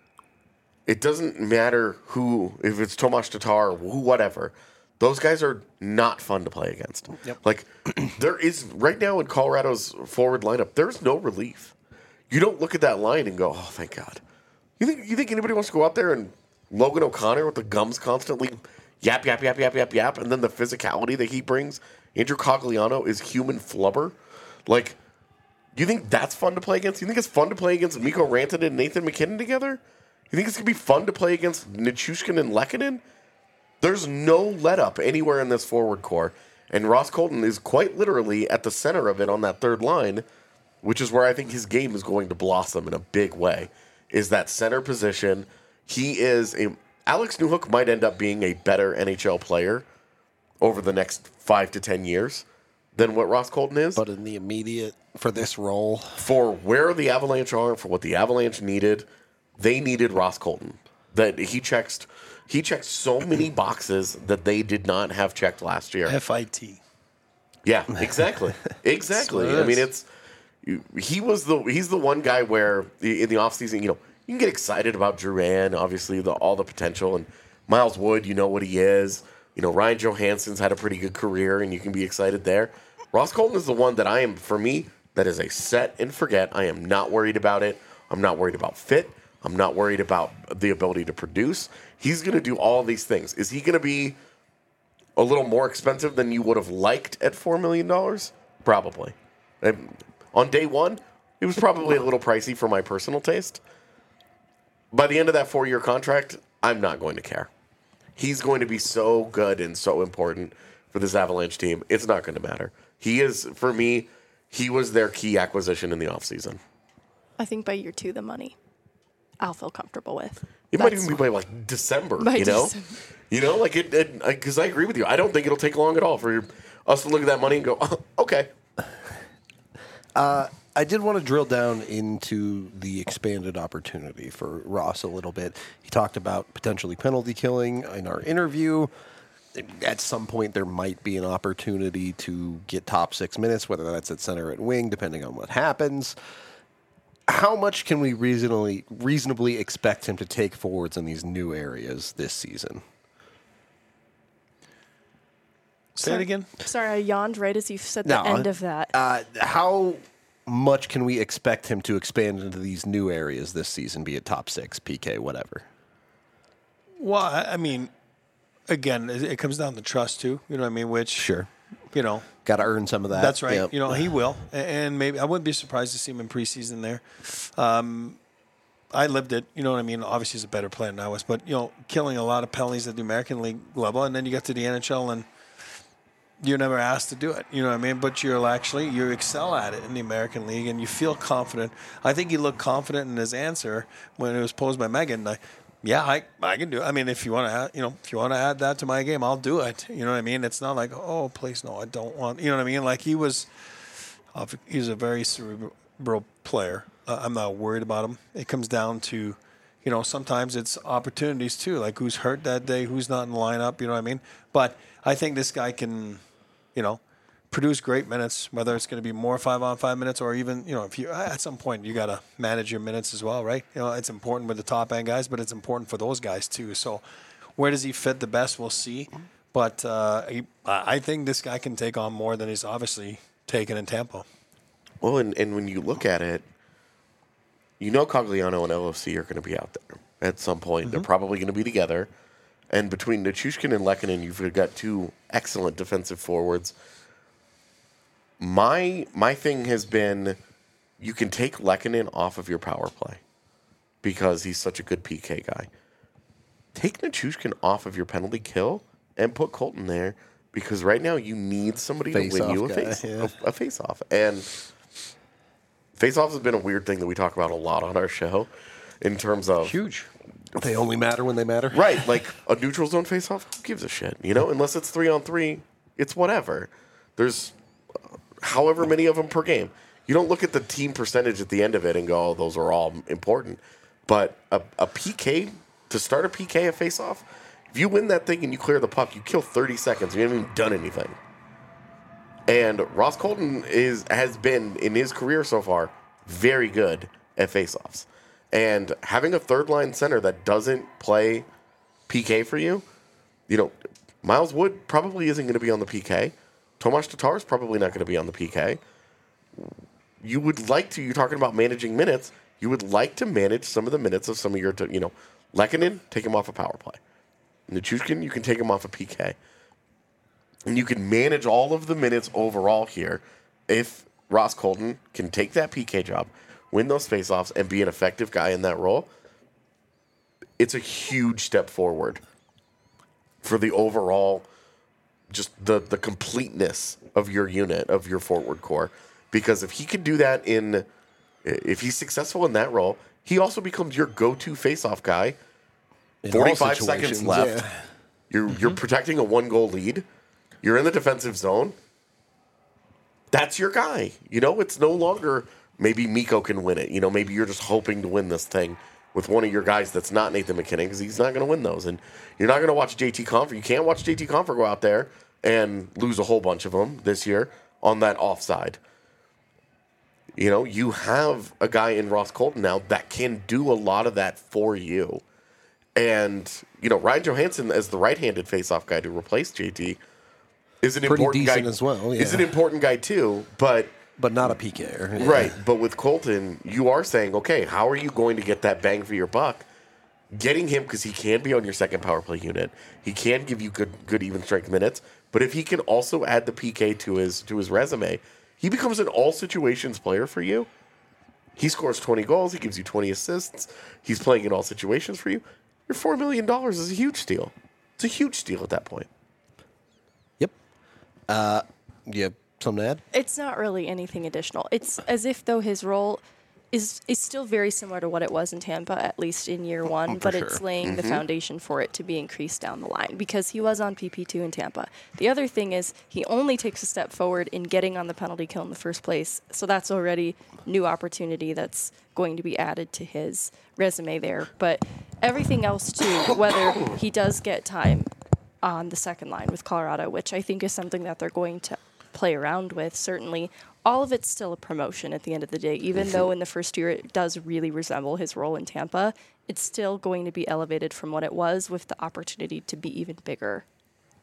it doesn't matter who, if it's Tomas Tatar or who, whatever. Those guys are not fun to play against. Yep. Like, there is, right now in Colorado's forward lineup, there's no relief. You don't look at that line and go, oh, thank God. You think you think anybody wants to go out there and Logan O'Connor with the gums constantly yap, yap, yap, yap, yap, yap, and then the physicality that he brings? Andrew Cogliano is human flubber. Like, you think that's fun to play against? You think it's fun to play against Mikko Rantanen and Nathan MacKinnon together? You think it's going to be fun to play against Nichushkin and Lehkonen? There's no let-up anywhere in this forward core, and Ross Colton is quite literally at the center of it on that third line, which is where I think his game is going to blossom in a big way, is that center position. He is a... Alex Newhook might end up being a better N H L player over the next five to ten years than what Ross Colton is. But in the immediate, for this role, For where the Avalanche are, for what the Avalanche needed, they needed Ross Colton. That he checks... He checked so many boxes that they did not have checked last year. F I T. Yeah, exactly, exactly. I mean, it's he was the he's the one guy where in the offseason, you know, you can get excited about Drouin, obviously the, all the potential, and Miles Wood, you know what he is. You know, Ryan Johansson's had a pretty good career, and you can be excited there. Ross Colton is the one that I am, for me, that is a set and forget. I am not worried about it. I'm not worried about fit. I'm not worried about the ability to produce. He's going to do all these things. Is he going to be a little more expensive than you would have liked at four million dollars? Probably. And on day one, it was probably a little pricey for my personal taste. By the end of that four-year contract, I'm not going to care. He's going to be so good and so important for this Avalanche team. It's not going to matter. He is, for me, he was their key acquisition in the offseason. I think by year two, the money I'll feel comfortable with. It might That's even be by like December, by you know? December. You know, like it, because I agree with you. I don't think it'll take long at all for us to look at that money and go, oh, okay. I did want to drill down into the expanded opportunity for Ross a little bit. He talked about potentially penalty killing in our interview. At some point, there might be an opportunity to get top six minutes, whether that's at center or at wing, depending on what happens. How much can we reasonably reasonably expect him to take forwards in these new areas this season? Say sorry, it again. Sorry, I yawned right as you said No, the end of that. Uh, how much can we expect him to expand into these new areas this season, be it top six, P K, whatever? Well, I I mean, again, it it comes down to trust too. You know what I mean? Which Sure. you know, Got to earn some of that. that's right. Yep. You know, he will, A- and maybe I wouldn't be surprised to see him in preseason there. Um, I lived it. You know what I mean? Obviously, he's a better player than I was, but you know, killing a lot of penalties at the American League level, and then you get to the N H L and you're never asked to do it. You know what I mean? But you're actually you excel at it in the American League, and you feel confident. I think he looked confident in his answer when it was posed by Megan. Like, yeah, I I can do it. I mean, if you want to, add, you know, if you want to add that to my game, I'll do it. You know what I mean? It's not like, oh, please no, I don't want. You know what I mean? Like he was, uh, he's a very cerebral player. Uh, I'm not worried about him. It comes down to, you know, sometimes it's opportunities too, like who's hurt that day, who's not in the lineup. You know what I mean? But I think this guy can, you know, produce great minutes, whether it's going to be more five on five minutes or even, you know, if you at some point you got to manage your minutes as well, right? You know, it's important with the top end guys, but it's important for those guys too. So where does he fit the best? We'll see. But uh, he, I I think this guy can take on more than he's obviously taken in Tampa. Well, and, and when you look at it, you know Cogliano and L F C are going to be out there at some point. They're probably going to be together. And between Nichushkin and Lehkonen, you've got two excellent defensive forwards. My my thing has been you can take Lehkonen off of your power play because he's such a good P K guy. Take Nichushkin off of your penalty kill and put Colton there because right now you need somebody Face to win you a off guy, face yeah. a, a face off. And face offs has been a weird thing that we talk about a lot on our show in terms of Huge. They only matter when they matter. right, like a neutral zone face off, who gives a shit? You know, unless it's three on three, it's whatever. There's uh, however many of them per game. You don't look at the team percentage at the end of it and go, oh, those are all important. But a, a P K, to start a P K at face off, if you win that thing and you clear the puck, you kill thirty seconds. You haven't even done anything. And Ross Colton is has been, in his career so far, very good at face-offs. And having a third-line center that doesn't play P K for you, you know, Miles Wood probably isn't going to be on the P K. Tomas Tatar is probably not going to be on the P K. You would like to, you're talking about managing minutes, you would like to manage some of the minutes of some of your, you know, Lehkonen, take him off a power play. Nichushkin, you can take him off a P K. And you can manage all of the minutes overall here if Ross Colton can take that P K job, win those faceoffs, and be an effective guy in that role. It's a huge step forward for the overall, just the, the completeness of your unit, of your forward core. Because if he can do that in, if he's successful in that role, he also becomes your go-to faceoff guy. In all forty-five seconds situations, left. yeah. You're you're protecting a one goal lead. You're in the defensive zone. That's your guy. You know, it's no longer maybe Mikko can win it. You know, maybe you're just hoping to win this thing with one of your guys that's not Nathan McKinnon because he's not going to win those. And you're not going to watch J T Confer. You can't watch J T Confer go out there and lose a whole bunch of them this year on that offside. You know, you have a guy in Ross Colton now that can do a lot of that for you. And, you know, Ryan Johansson as the right-handed face-off guy to replace J T is an Pretty important guy decent as well, Is yeah. an important guy too, but But not a P K. right. But with Colton, you are saying, okay, how are you going to get that bang for your buck? Getting him because he can be on your second power play unit. He can give you good, good even strength minutes. But if he can also add the P K to his to his resume, he becomes an all situations player for you. He scores twenty goals. He gives you twenty assists. He's playing in all situations for you. Your four million dollars is a huge steal. It's a huge steal at that point. Yep. Uh, you have something to add? It's not really anything additional. It's as if though his role is is still very similar to what it was in Tampa, at least in year one, but sure. it's laying the foundation for it to be increased down the line because he was on P P two in Tampa. The other thing is he only takes a step forward in getting on the penalty kill in the first place, so that's already new opportunity that's going to be added to his resume there. But everything else too, whether he does get time on the second line with Colorado, which I think is something that they're going to play around with, certainly. All of it's still a promotion at the end of the day. Even though in the first year it does really resemble his role in Tampa, it's still going to be elevated from what it was with the opportunity to be even bigger.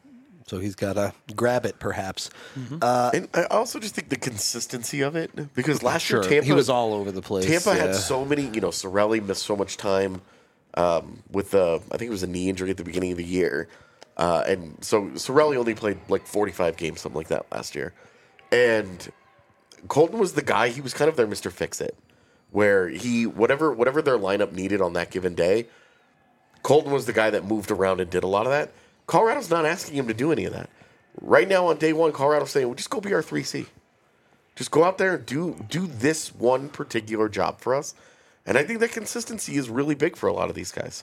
So he's got to grab it, perhaps. And I also just think the consistency of it, because last Sure, year Tampa he was all over the place. Tampa yeah. had so many, you know, Sorelli missed so much time um, with the, I think it was a knee injury at the beginning of the year. Uh, and so Sorelli only played like forty-five games, something like that last year. And Colton was the guy, he was kind of their Mister Fix-It, where he, whatever whatever their lineup needed on that given day, Colton was the guy that moved around and did a lot of that. Colorado's not asking him to do any of that. Right now on day one, Colorado's saying, well, just go be our three C. Just go out there and do do this one particular job for us. And I think that consistency is really big for a lot of these guys.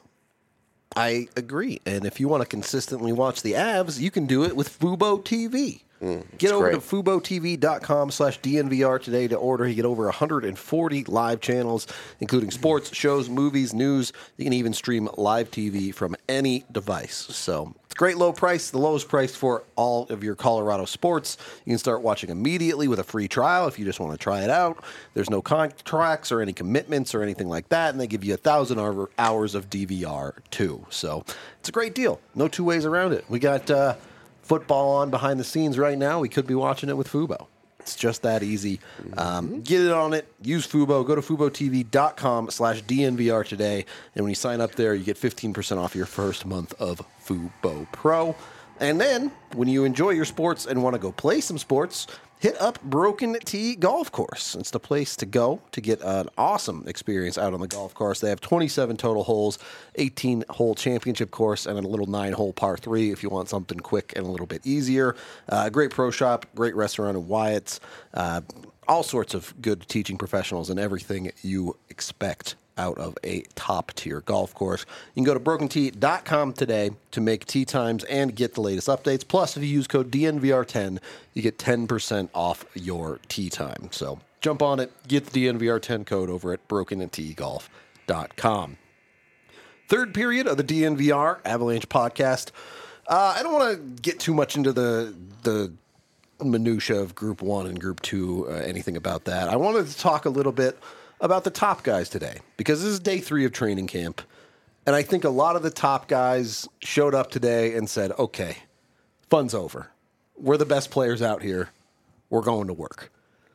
I agree. And if you want to consistently watch the Avs, you can do it with Fubo T V. Get over great. to FuboTV.com slash DNVR today to order. You get over one hundred forty live channels, including sports, shows, movies, news. You can even stream live T V from any device. So it's a great low price, the lowest price for all of your Colorado sports. You can start watching immediately with a free trial if you just want to try it out. There's no contracts or any commitments or anything like that, and they give you a thousand hours of D V R too. So it's a great deal. No two ways around it. We got uh, football on behind the scenes right now. We could be watching it with Fubo. It's just that easy. Um, get it on it. Use Fubo. Go to FuboTV.com slash DNVR today. And when you sign up there, you get fifteen percent off your first month of Fubo Pro. And then, when you enjoy your sports and want to go play some sports, hit up Broken Tee Golf Course. It's the place to go to get an awesome experience out on the golf course. They have twenty-seven total holes, eighteen-hole championship course, and a little nine-hole par three if you want something quick and a little bit easier. Uh, great pro shop, great restaurant in Wyatt's, uh, all sorts of good teaching professionals and everything you expect out of a top-tier golf course. You can go to broken tee dot com today to make tee times and get the latest updates. Plus, if you use code D N V R ten, you get ten percent off your tee time. So jump on it. Get the D N V R ten code over at broken tee golf dot com. Third period of the D N V R Avalanche podcast. Uh, I don't want to get too much into the the minutia of Group One and Group Two, uh, anything about that. I wanted to talk a little bit about the top guys today, because this is day three of training camp, and I think a lot of the top guys showed up today and said, okay, fun's over. We're the best players out here. We're going to work.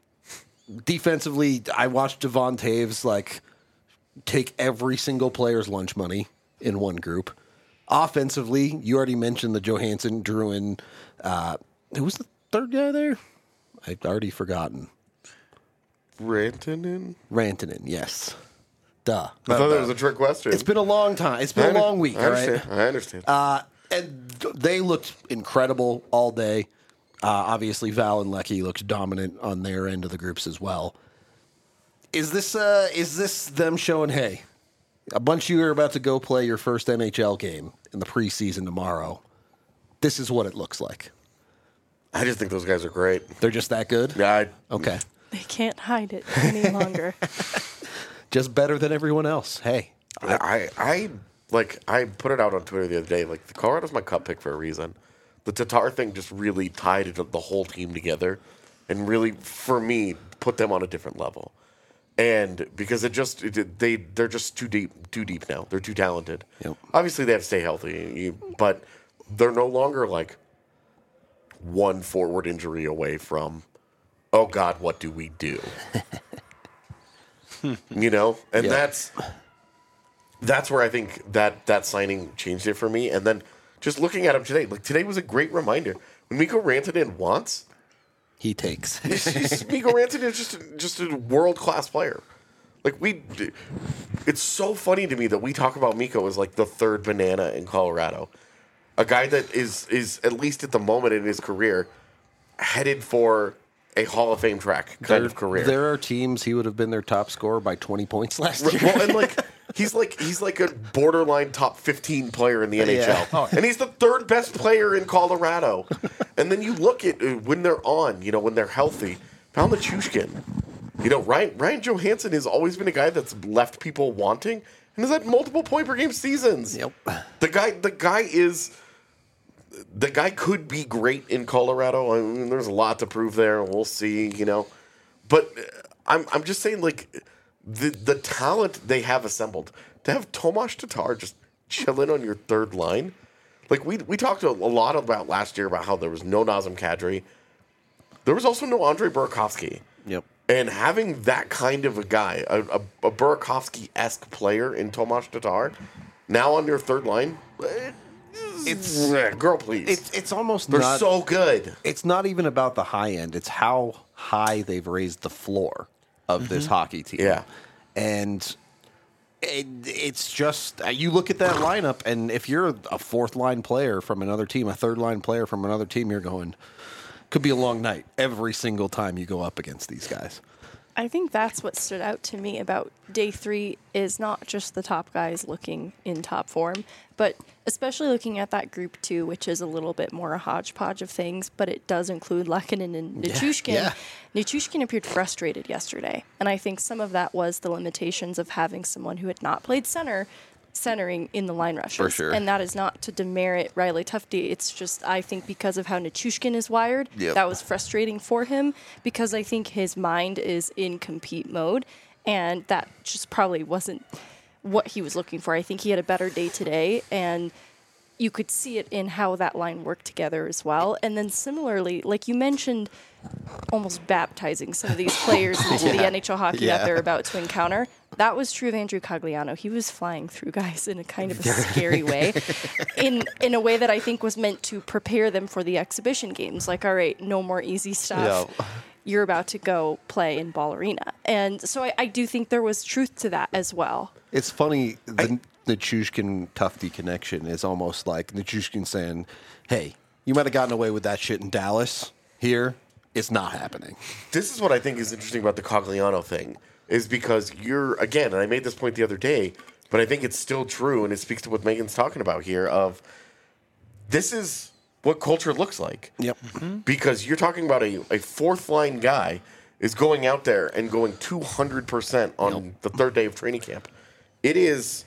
Defensively, I watched Devon Taves like take every single player's lunch money in one group. Offensively, you already mentioned the Johansson, Drouin. Uh, who was the third guy there? I've already forgotten. Rantanen? Rantanen, yes. Duh. I thought that was a trick question. It's been a long time. It's been a long week, I all right? understand. I understand. Uh, and they looked incredible all day. Uh, obviously, Val and Lecky looked dominant on their end of the groups as well. Is this uh, is this them showing, hey, a bunch of you are about to go play your first N H L game in the preseason tomorrow. This is what it looks like. I just think those guys are great. They're just that good? Yeah, I, Okay. They can't hide it any longer. Just better than everyone else. Hey. I, I, I, like, I put it out on Twitter the other day. Like, the Colorado's my cup pick for a reason. The Tatar thing just really tied it, the whole team together, and really, for me, put them on a different level. And because it just it, they they're just too deep, too deep now. They're too talented. Yep. Obviously, they have to stay healthy, you, but they're no longer like one forward injury away from, oh God, what do we do? You know, and Yeah. that's that's where I think that that signing changed it for me. And then just looking at him today, like today was a great reminder. When Mikko Rantanen wants, He takes. he's, he's, Mikko Rantanen is just a, just a world class player. Like we, it's so funny to me that we talk about Mikko as like the third banana in Colorado, a guy that is is at least at the moment in his career headed for a Hall of Fame track kind there, of career. There are teams he would have been their top scorer by twenty points last year. Well, and like he's like he's like a borderline top fifteen player in the N H L, Yeah. and he's the third best player in Colorado. And then you look at uh, when they're on, you know, when they're healthy, Val Nichushkin, you know, Ryan Ryan Johansson has always been a guy that's left people wanting, and has had multiple point per game seasons. Yep. The guy, the guy is. The guy could be great in Colorado. I mean, there's a lot to prove there. We'll see, you know. But uh, I'm I'm just saying, like, the the talent they have assembled to have Tomas Tatar just chilling on your third line, like we we talked a, a lot about last year about how there was no Nazem Kadri. There was also no Andre Burakovsky. Yep. And having that kind of a guy, a, a, a Burakovsky-esque player in Tomas Tatar, now on your third line, it's girl, please. It's it's almost They're not, so good. It's not even about the high end. It's how high they've raised the floor of this hockey team. Yeah. And it, it's just uh, you look at that lineup, and if you're a fourth line player from another team, a third line player from another team, you're going. Could be a long night every single time you go up against these guys. I think that's what stood out to me about day three is not just the top guys looking in top form, but especially looking at that group two, which is a little bit more a hodgepodge of things, but it does include Lehkonen and Nichushkin. Yeah, yeah. Nichushkin appeared frustrated yesterday, and I think some of that was the limitations of having someone who had not played center centering in the line rushes. For sure. And that is not to demerit Riley Tufte. It's just, I think, because of how Nichushkin is wired, Yep. that was frustrating for him because I think his mind is in compete mode, and that just probably wasn't what he was looking for. I think he had a better day today, and you could see it in how that line worked together as well. And then similarly, like you mentioned, almost baptizing some of these players into the N H L hockey Yeah. that they're about to encounter. That was true of Andrew Cogliano. He was flying through guys in a kind of a scary way, in in a way that I think was meant to prepare them for the exhibition games. Like, all right, no more easy stuff. Yeah. You're about to go play in Ball Arena. And so I, I do think there was truth to that as well. It's funny, the Nichushkin Tufte connection is almost like Nichushkin saying, hey, you might have gotten away with that shit in Dallas. Here, it's not happening. This is what I think is interesting about the Cogliano thing, is because you're, again, and I made this point the other day, but I think it's still true, and it speaks to what Megan's talking about here, of this is what culture looks like. Yep. Because you're talking about a, a fourth-line guy is going out there and going two hundred percent on the third day of training camp. It is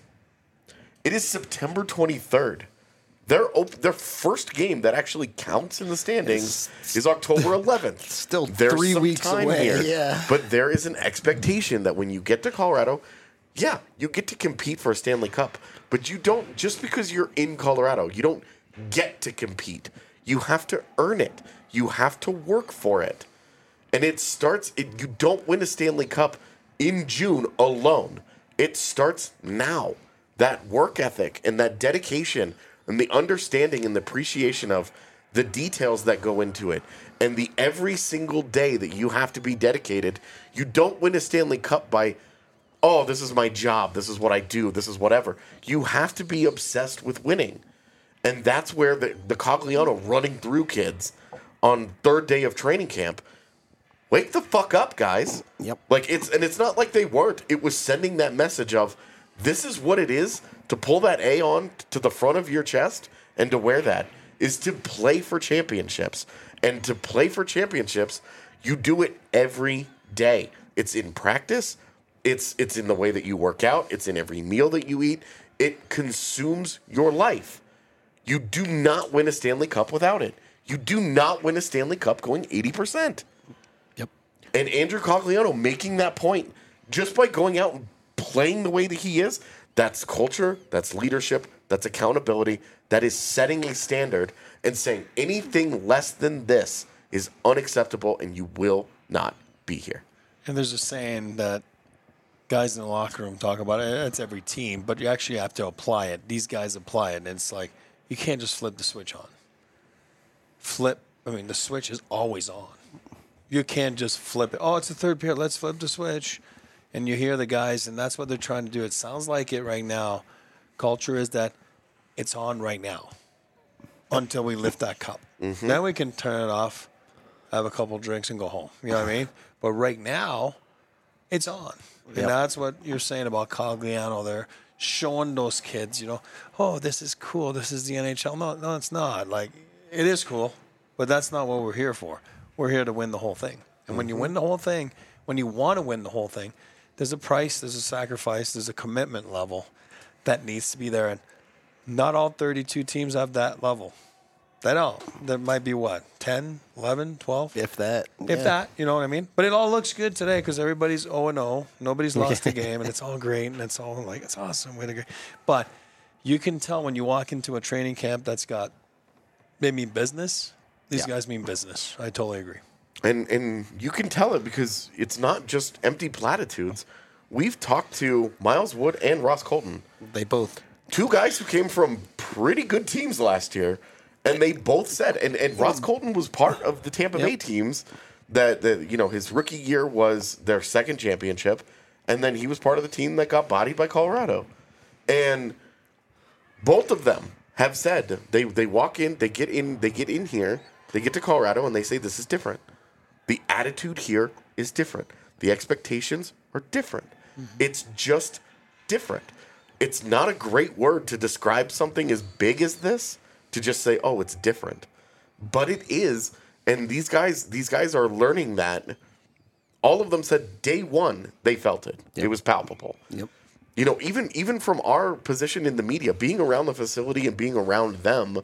it is September twenty-third. Their op- their first game that actually counts in the standings is October eleventh. Still There's three some weeks time away, here. yeah. But there is an expectation that when you get to Colorado, yeah, you get to compete for a Stanley Cup. But you don't, just because you're in Colorado, you don't get to compete. You have to earn it. You have to work for it. And it starts, it, you don't win a Stanley Cup in June alone. It starts now. That work ethic and that dedication and the understanding and the appreciation of the details that go into it and the every single day that you have to be dedicated. You don't win a Stanley Cup by, oh, this is my job, this is what I do, this is whatever. You have to be obsessed with winning. And that's where the, the Cogliano running through kids on third day of training camp, wake the fuck up, guys. Yep. Like it's and it's not like they weren't. It was sending that message of this is what it is to pull that A on to the front of your chest and to wear that is to play for championships. And to play for championships, you do it every day. It's in practice. It's it's in the way that you work out. It's in every meal that you eat. It consumes your life. You do not win a Stanley Cup without it. You do not win a Stanley Cup going eighty percent. Yep. And Andrew Cogliano making that point just by going out and playing the way that he is, that's culture, that's leadership, that's accountability, that is setting a standard and saying anything less than this is unacceptable and you will not be here. And there's a saying that guys in the locker room talk about it. It's every team, but you actually have to apply it. These guys apply it, and it's like you can't just flip the switch on. Flip. I mean, the switch is always on. You can't just flip it. Oh, it's the third period. Let's flip the switch. And you hear the guys, and that's what they're trying to do. It sounds like it right now. Culture is that it's on right now until we lift that cup. Mm-hmm. Then we can turn it off, have a couple drinks, and go home. You know what I mean? But right now, it's on. And Yep. that's what you're saying about Cogliano there, showing those kids, you know, oh, this is cool. This is the N H L. No, no, it's not. Like, it is cool, but that's not what we're here for. We're here to win the whole thing. And when you win the whole thing, when you want to win the whole thing, there's a price, there's a sacrifice, there's a commitment level that needs to be there. And not all thirty-two teams have that level. They don't. There might be, what, ten, eleven, twelve? If that. If yeah. that, you know what I mean? But it all looks good today because everybody's oh and oh. Nobody's lost a game, and it's all great, and it's all like, it's awesome. Way to go. But you can tell when you walk into a training camp that's got they mean business. These Yeah. guys mean business. I totally agree. And and you can tell it because it's not just empty platitudes. We've talked to Miles Wood and Ross Colton, They both. two guys who came from pretty good teams last year, and they both said, and, and Ross Colton was part of the Tampa Bay Yep. teams that, that, you know, his rookie year was their second championship, and then he was part of the team that got bodied by Colorado. And both of them have said they, they walk in, they get in, they get in here, they get to Colorado, and they say this is different. The attitude here is different. The expectations are different. Mm-hmm. It's just different. It's not a great word to describe something as big as this, to just say, oh, it's different. But it is, and these guys, these guys are learning that. All of them said day one they felt it. Yep. It was palpable. Yep. You know, even even from our position in the media, being around the facility and being around them,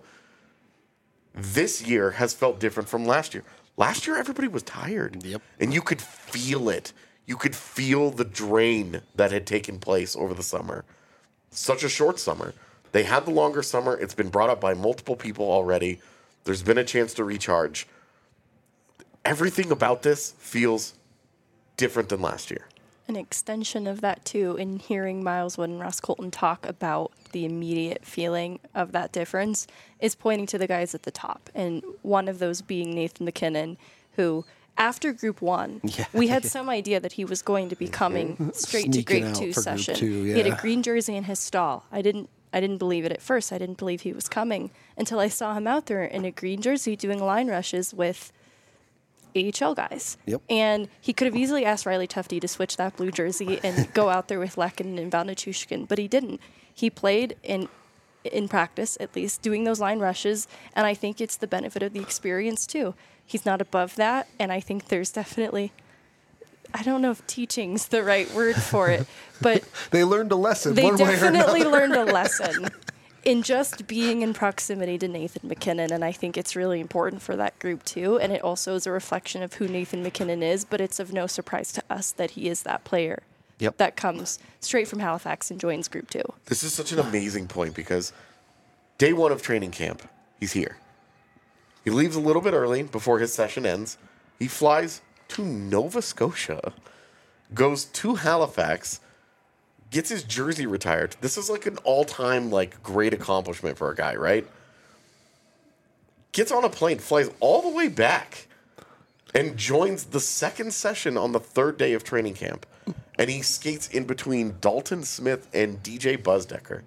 this year has felt different from last year. Last year, everybody was tired. Yep. And you could feel it. You could feel the drain that had taken place over the summer. Such a short summer. They had the longer summer. It's been brought up by multiple people already. There's been a chance to recharge. Everything about this feels different than last year. An extension of that, too, in hearing Miles Wood and Ross Colton talk about the immediate feeling of that difference, is pointing to the guys at the top. And one of those being Nathan MacKinnon, who, after Group One, Yeah. we had some idea that he was going to be coming straight to Sneaking Grade out Two for Group session. two, He had a yeah. green jersey in his stall. I didn't. I didn't believe it at first. I didn't believe he was coming until I saw him out there in a green jersey doing line rushes with A H L guys. Yep. And he could have easily asked Riley Tufte to switch that blue jersey and go out there with Lekin and Valnichushkin, but he didn't. He played in in practice, at least, doing those line rushes, and I think it's the benefit of the experience, too. He's not above that, and I think there's definitely, I don't know if teaching's the right word for it, but They learned a lesson. they one way or definitely another. learned a lesson in just being in proximity to Nathan MacKinnon, and I think it's really important for that group too. And it also is a reflection of who Nathan MacKinnon is, but it's of no surprise to us that he is that player Yep. that comes straight from Halifax and joins Group Two. This is such an amazing point because day one of training camp, he's here. He leaves a little bit early before his session ends. He flies to Nova Scotia, goes to Halifax, gets his jersey retired. This is like an all-time like great accomplishment for a guy, right? Gets on a plane, flies all the way back, and joins the second session on the third day of training camp. And he skates in between Dalton Smith and D J Buzzdecker.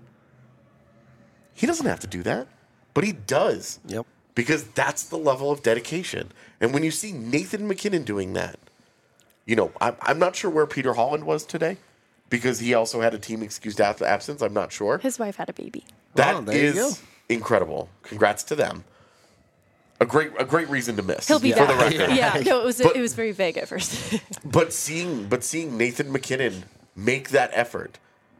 He doesn't have to do that, but he does. Yep. Because that's the level of dedication. And when you see Nathan MacKinnon doing that, you know, I'm, I'm not sure where Peter Holland was today because he also had a team excused ab- absence. I'm not sure. His wife had a baby. That Oh, there you go. is incredible. Congrats to them. A great, a great reason to miss. He'll be for the back. record. Yeah, no, it was But- it was very vague at first. But seeing, but seeing Nathan MacKinnon make that effort,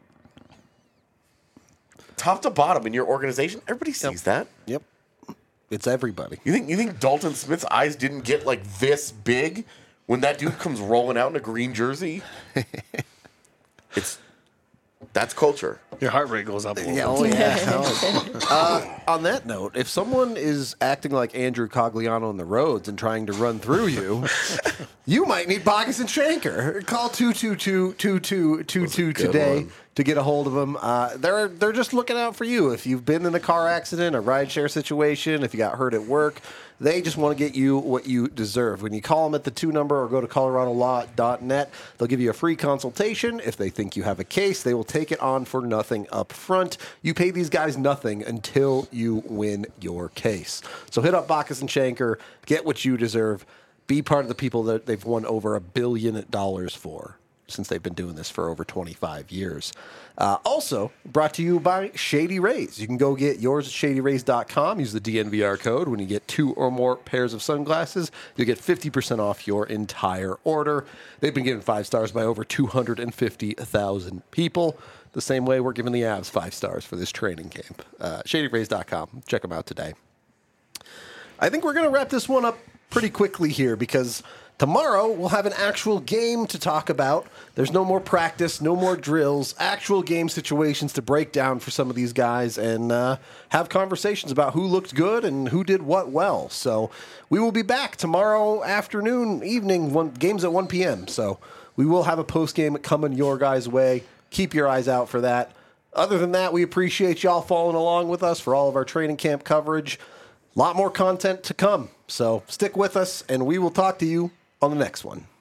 top to bottom in your organization, everybody sees that. Yep. It's everybody. You think you think Dalton Smith's eyes didn't get like this big when that dude comes rolling out in a green jersey? It's that's culture. Your heart rate goes up a little Yeah, bit. oh yeah. uh, on that note, if someone is acting like Andrew Cogliano on the roads and trying to run through you, you might need Bacchus and Shanker. Call two two two two two two two good today one. to get a hold of them. Uh, they're they're just looking out for you. If you've been in a car accident, a rideshare situation, if you got hurt at work, they just want to get you what you deserve. When you call them at the two number or go to colorado law dot net, they'll give you a free consultation. If they think you have a case, they will take it on for nothing up front. You pay these guys nothing until you win your case. So hit up Bacchus and Shanker, get what you deserve, be part of the people that they've won over a billion dollars for, since they've been doing this for over twenty-five years. Uh, also, brought to you by Shady Rays. You can go get yours at shady rays dot com. Use the D N V R code. When you get two or more pairs of sunglasses, you'll get fifty percent off your entire order. They've been given five stars by over two hundred fifty thousand people. The same way we're giving the Avs five stars for this training camp. Uh, shady rays dot com. Check them out today. I think we're going to wrap this one up pretty quickly here because Tomorrow, we'll have an actual game to talk about. There's no more practice, no more drills, actual game situations to break down for some of these guys and uh, have conversations about who looked good and who did what well. So we will be back tomorrow afternoon, evening, one, games at one p.m. So we will have a post-game coming your guys' way. Keep your eyes out for that. Other than that, we appreciate y'all following along with us for all of our training camp coverage. A lot more content to come. So stick with us, and we will talk to you on the next one.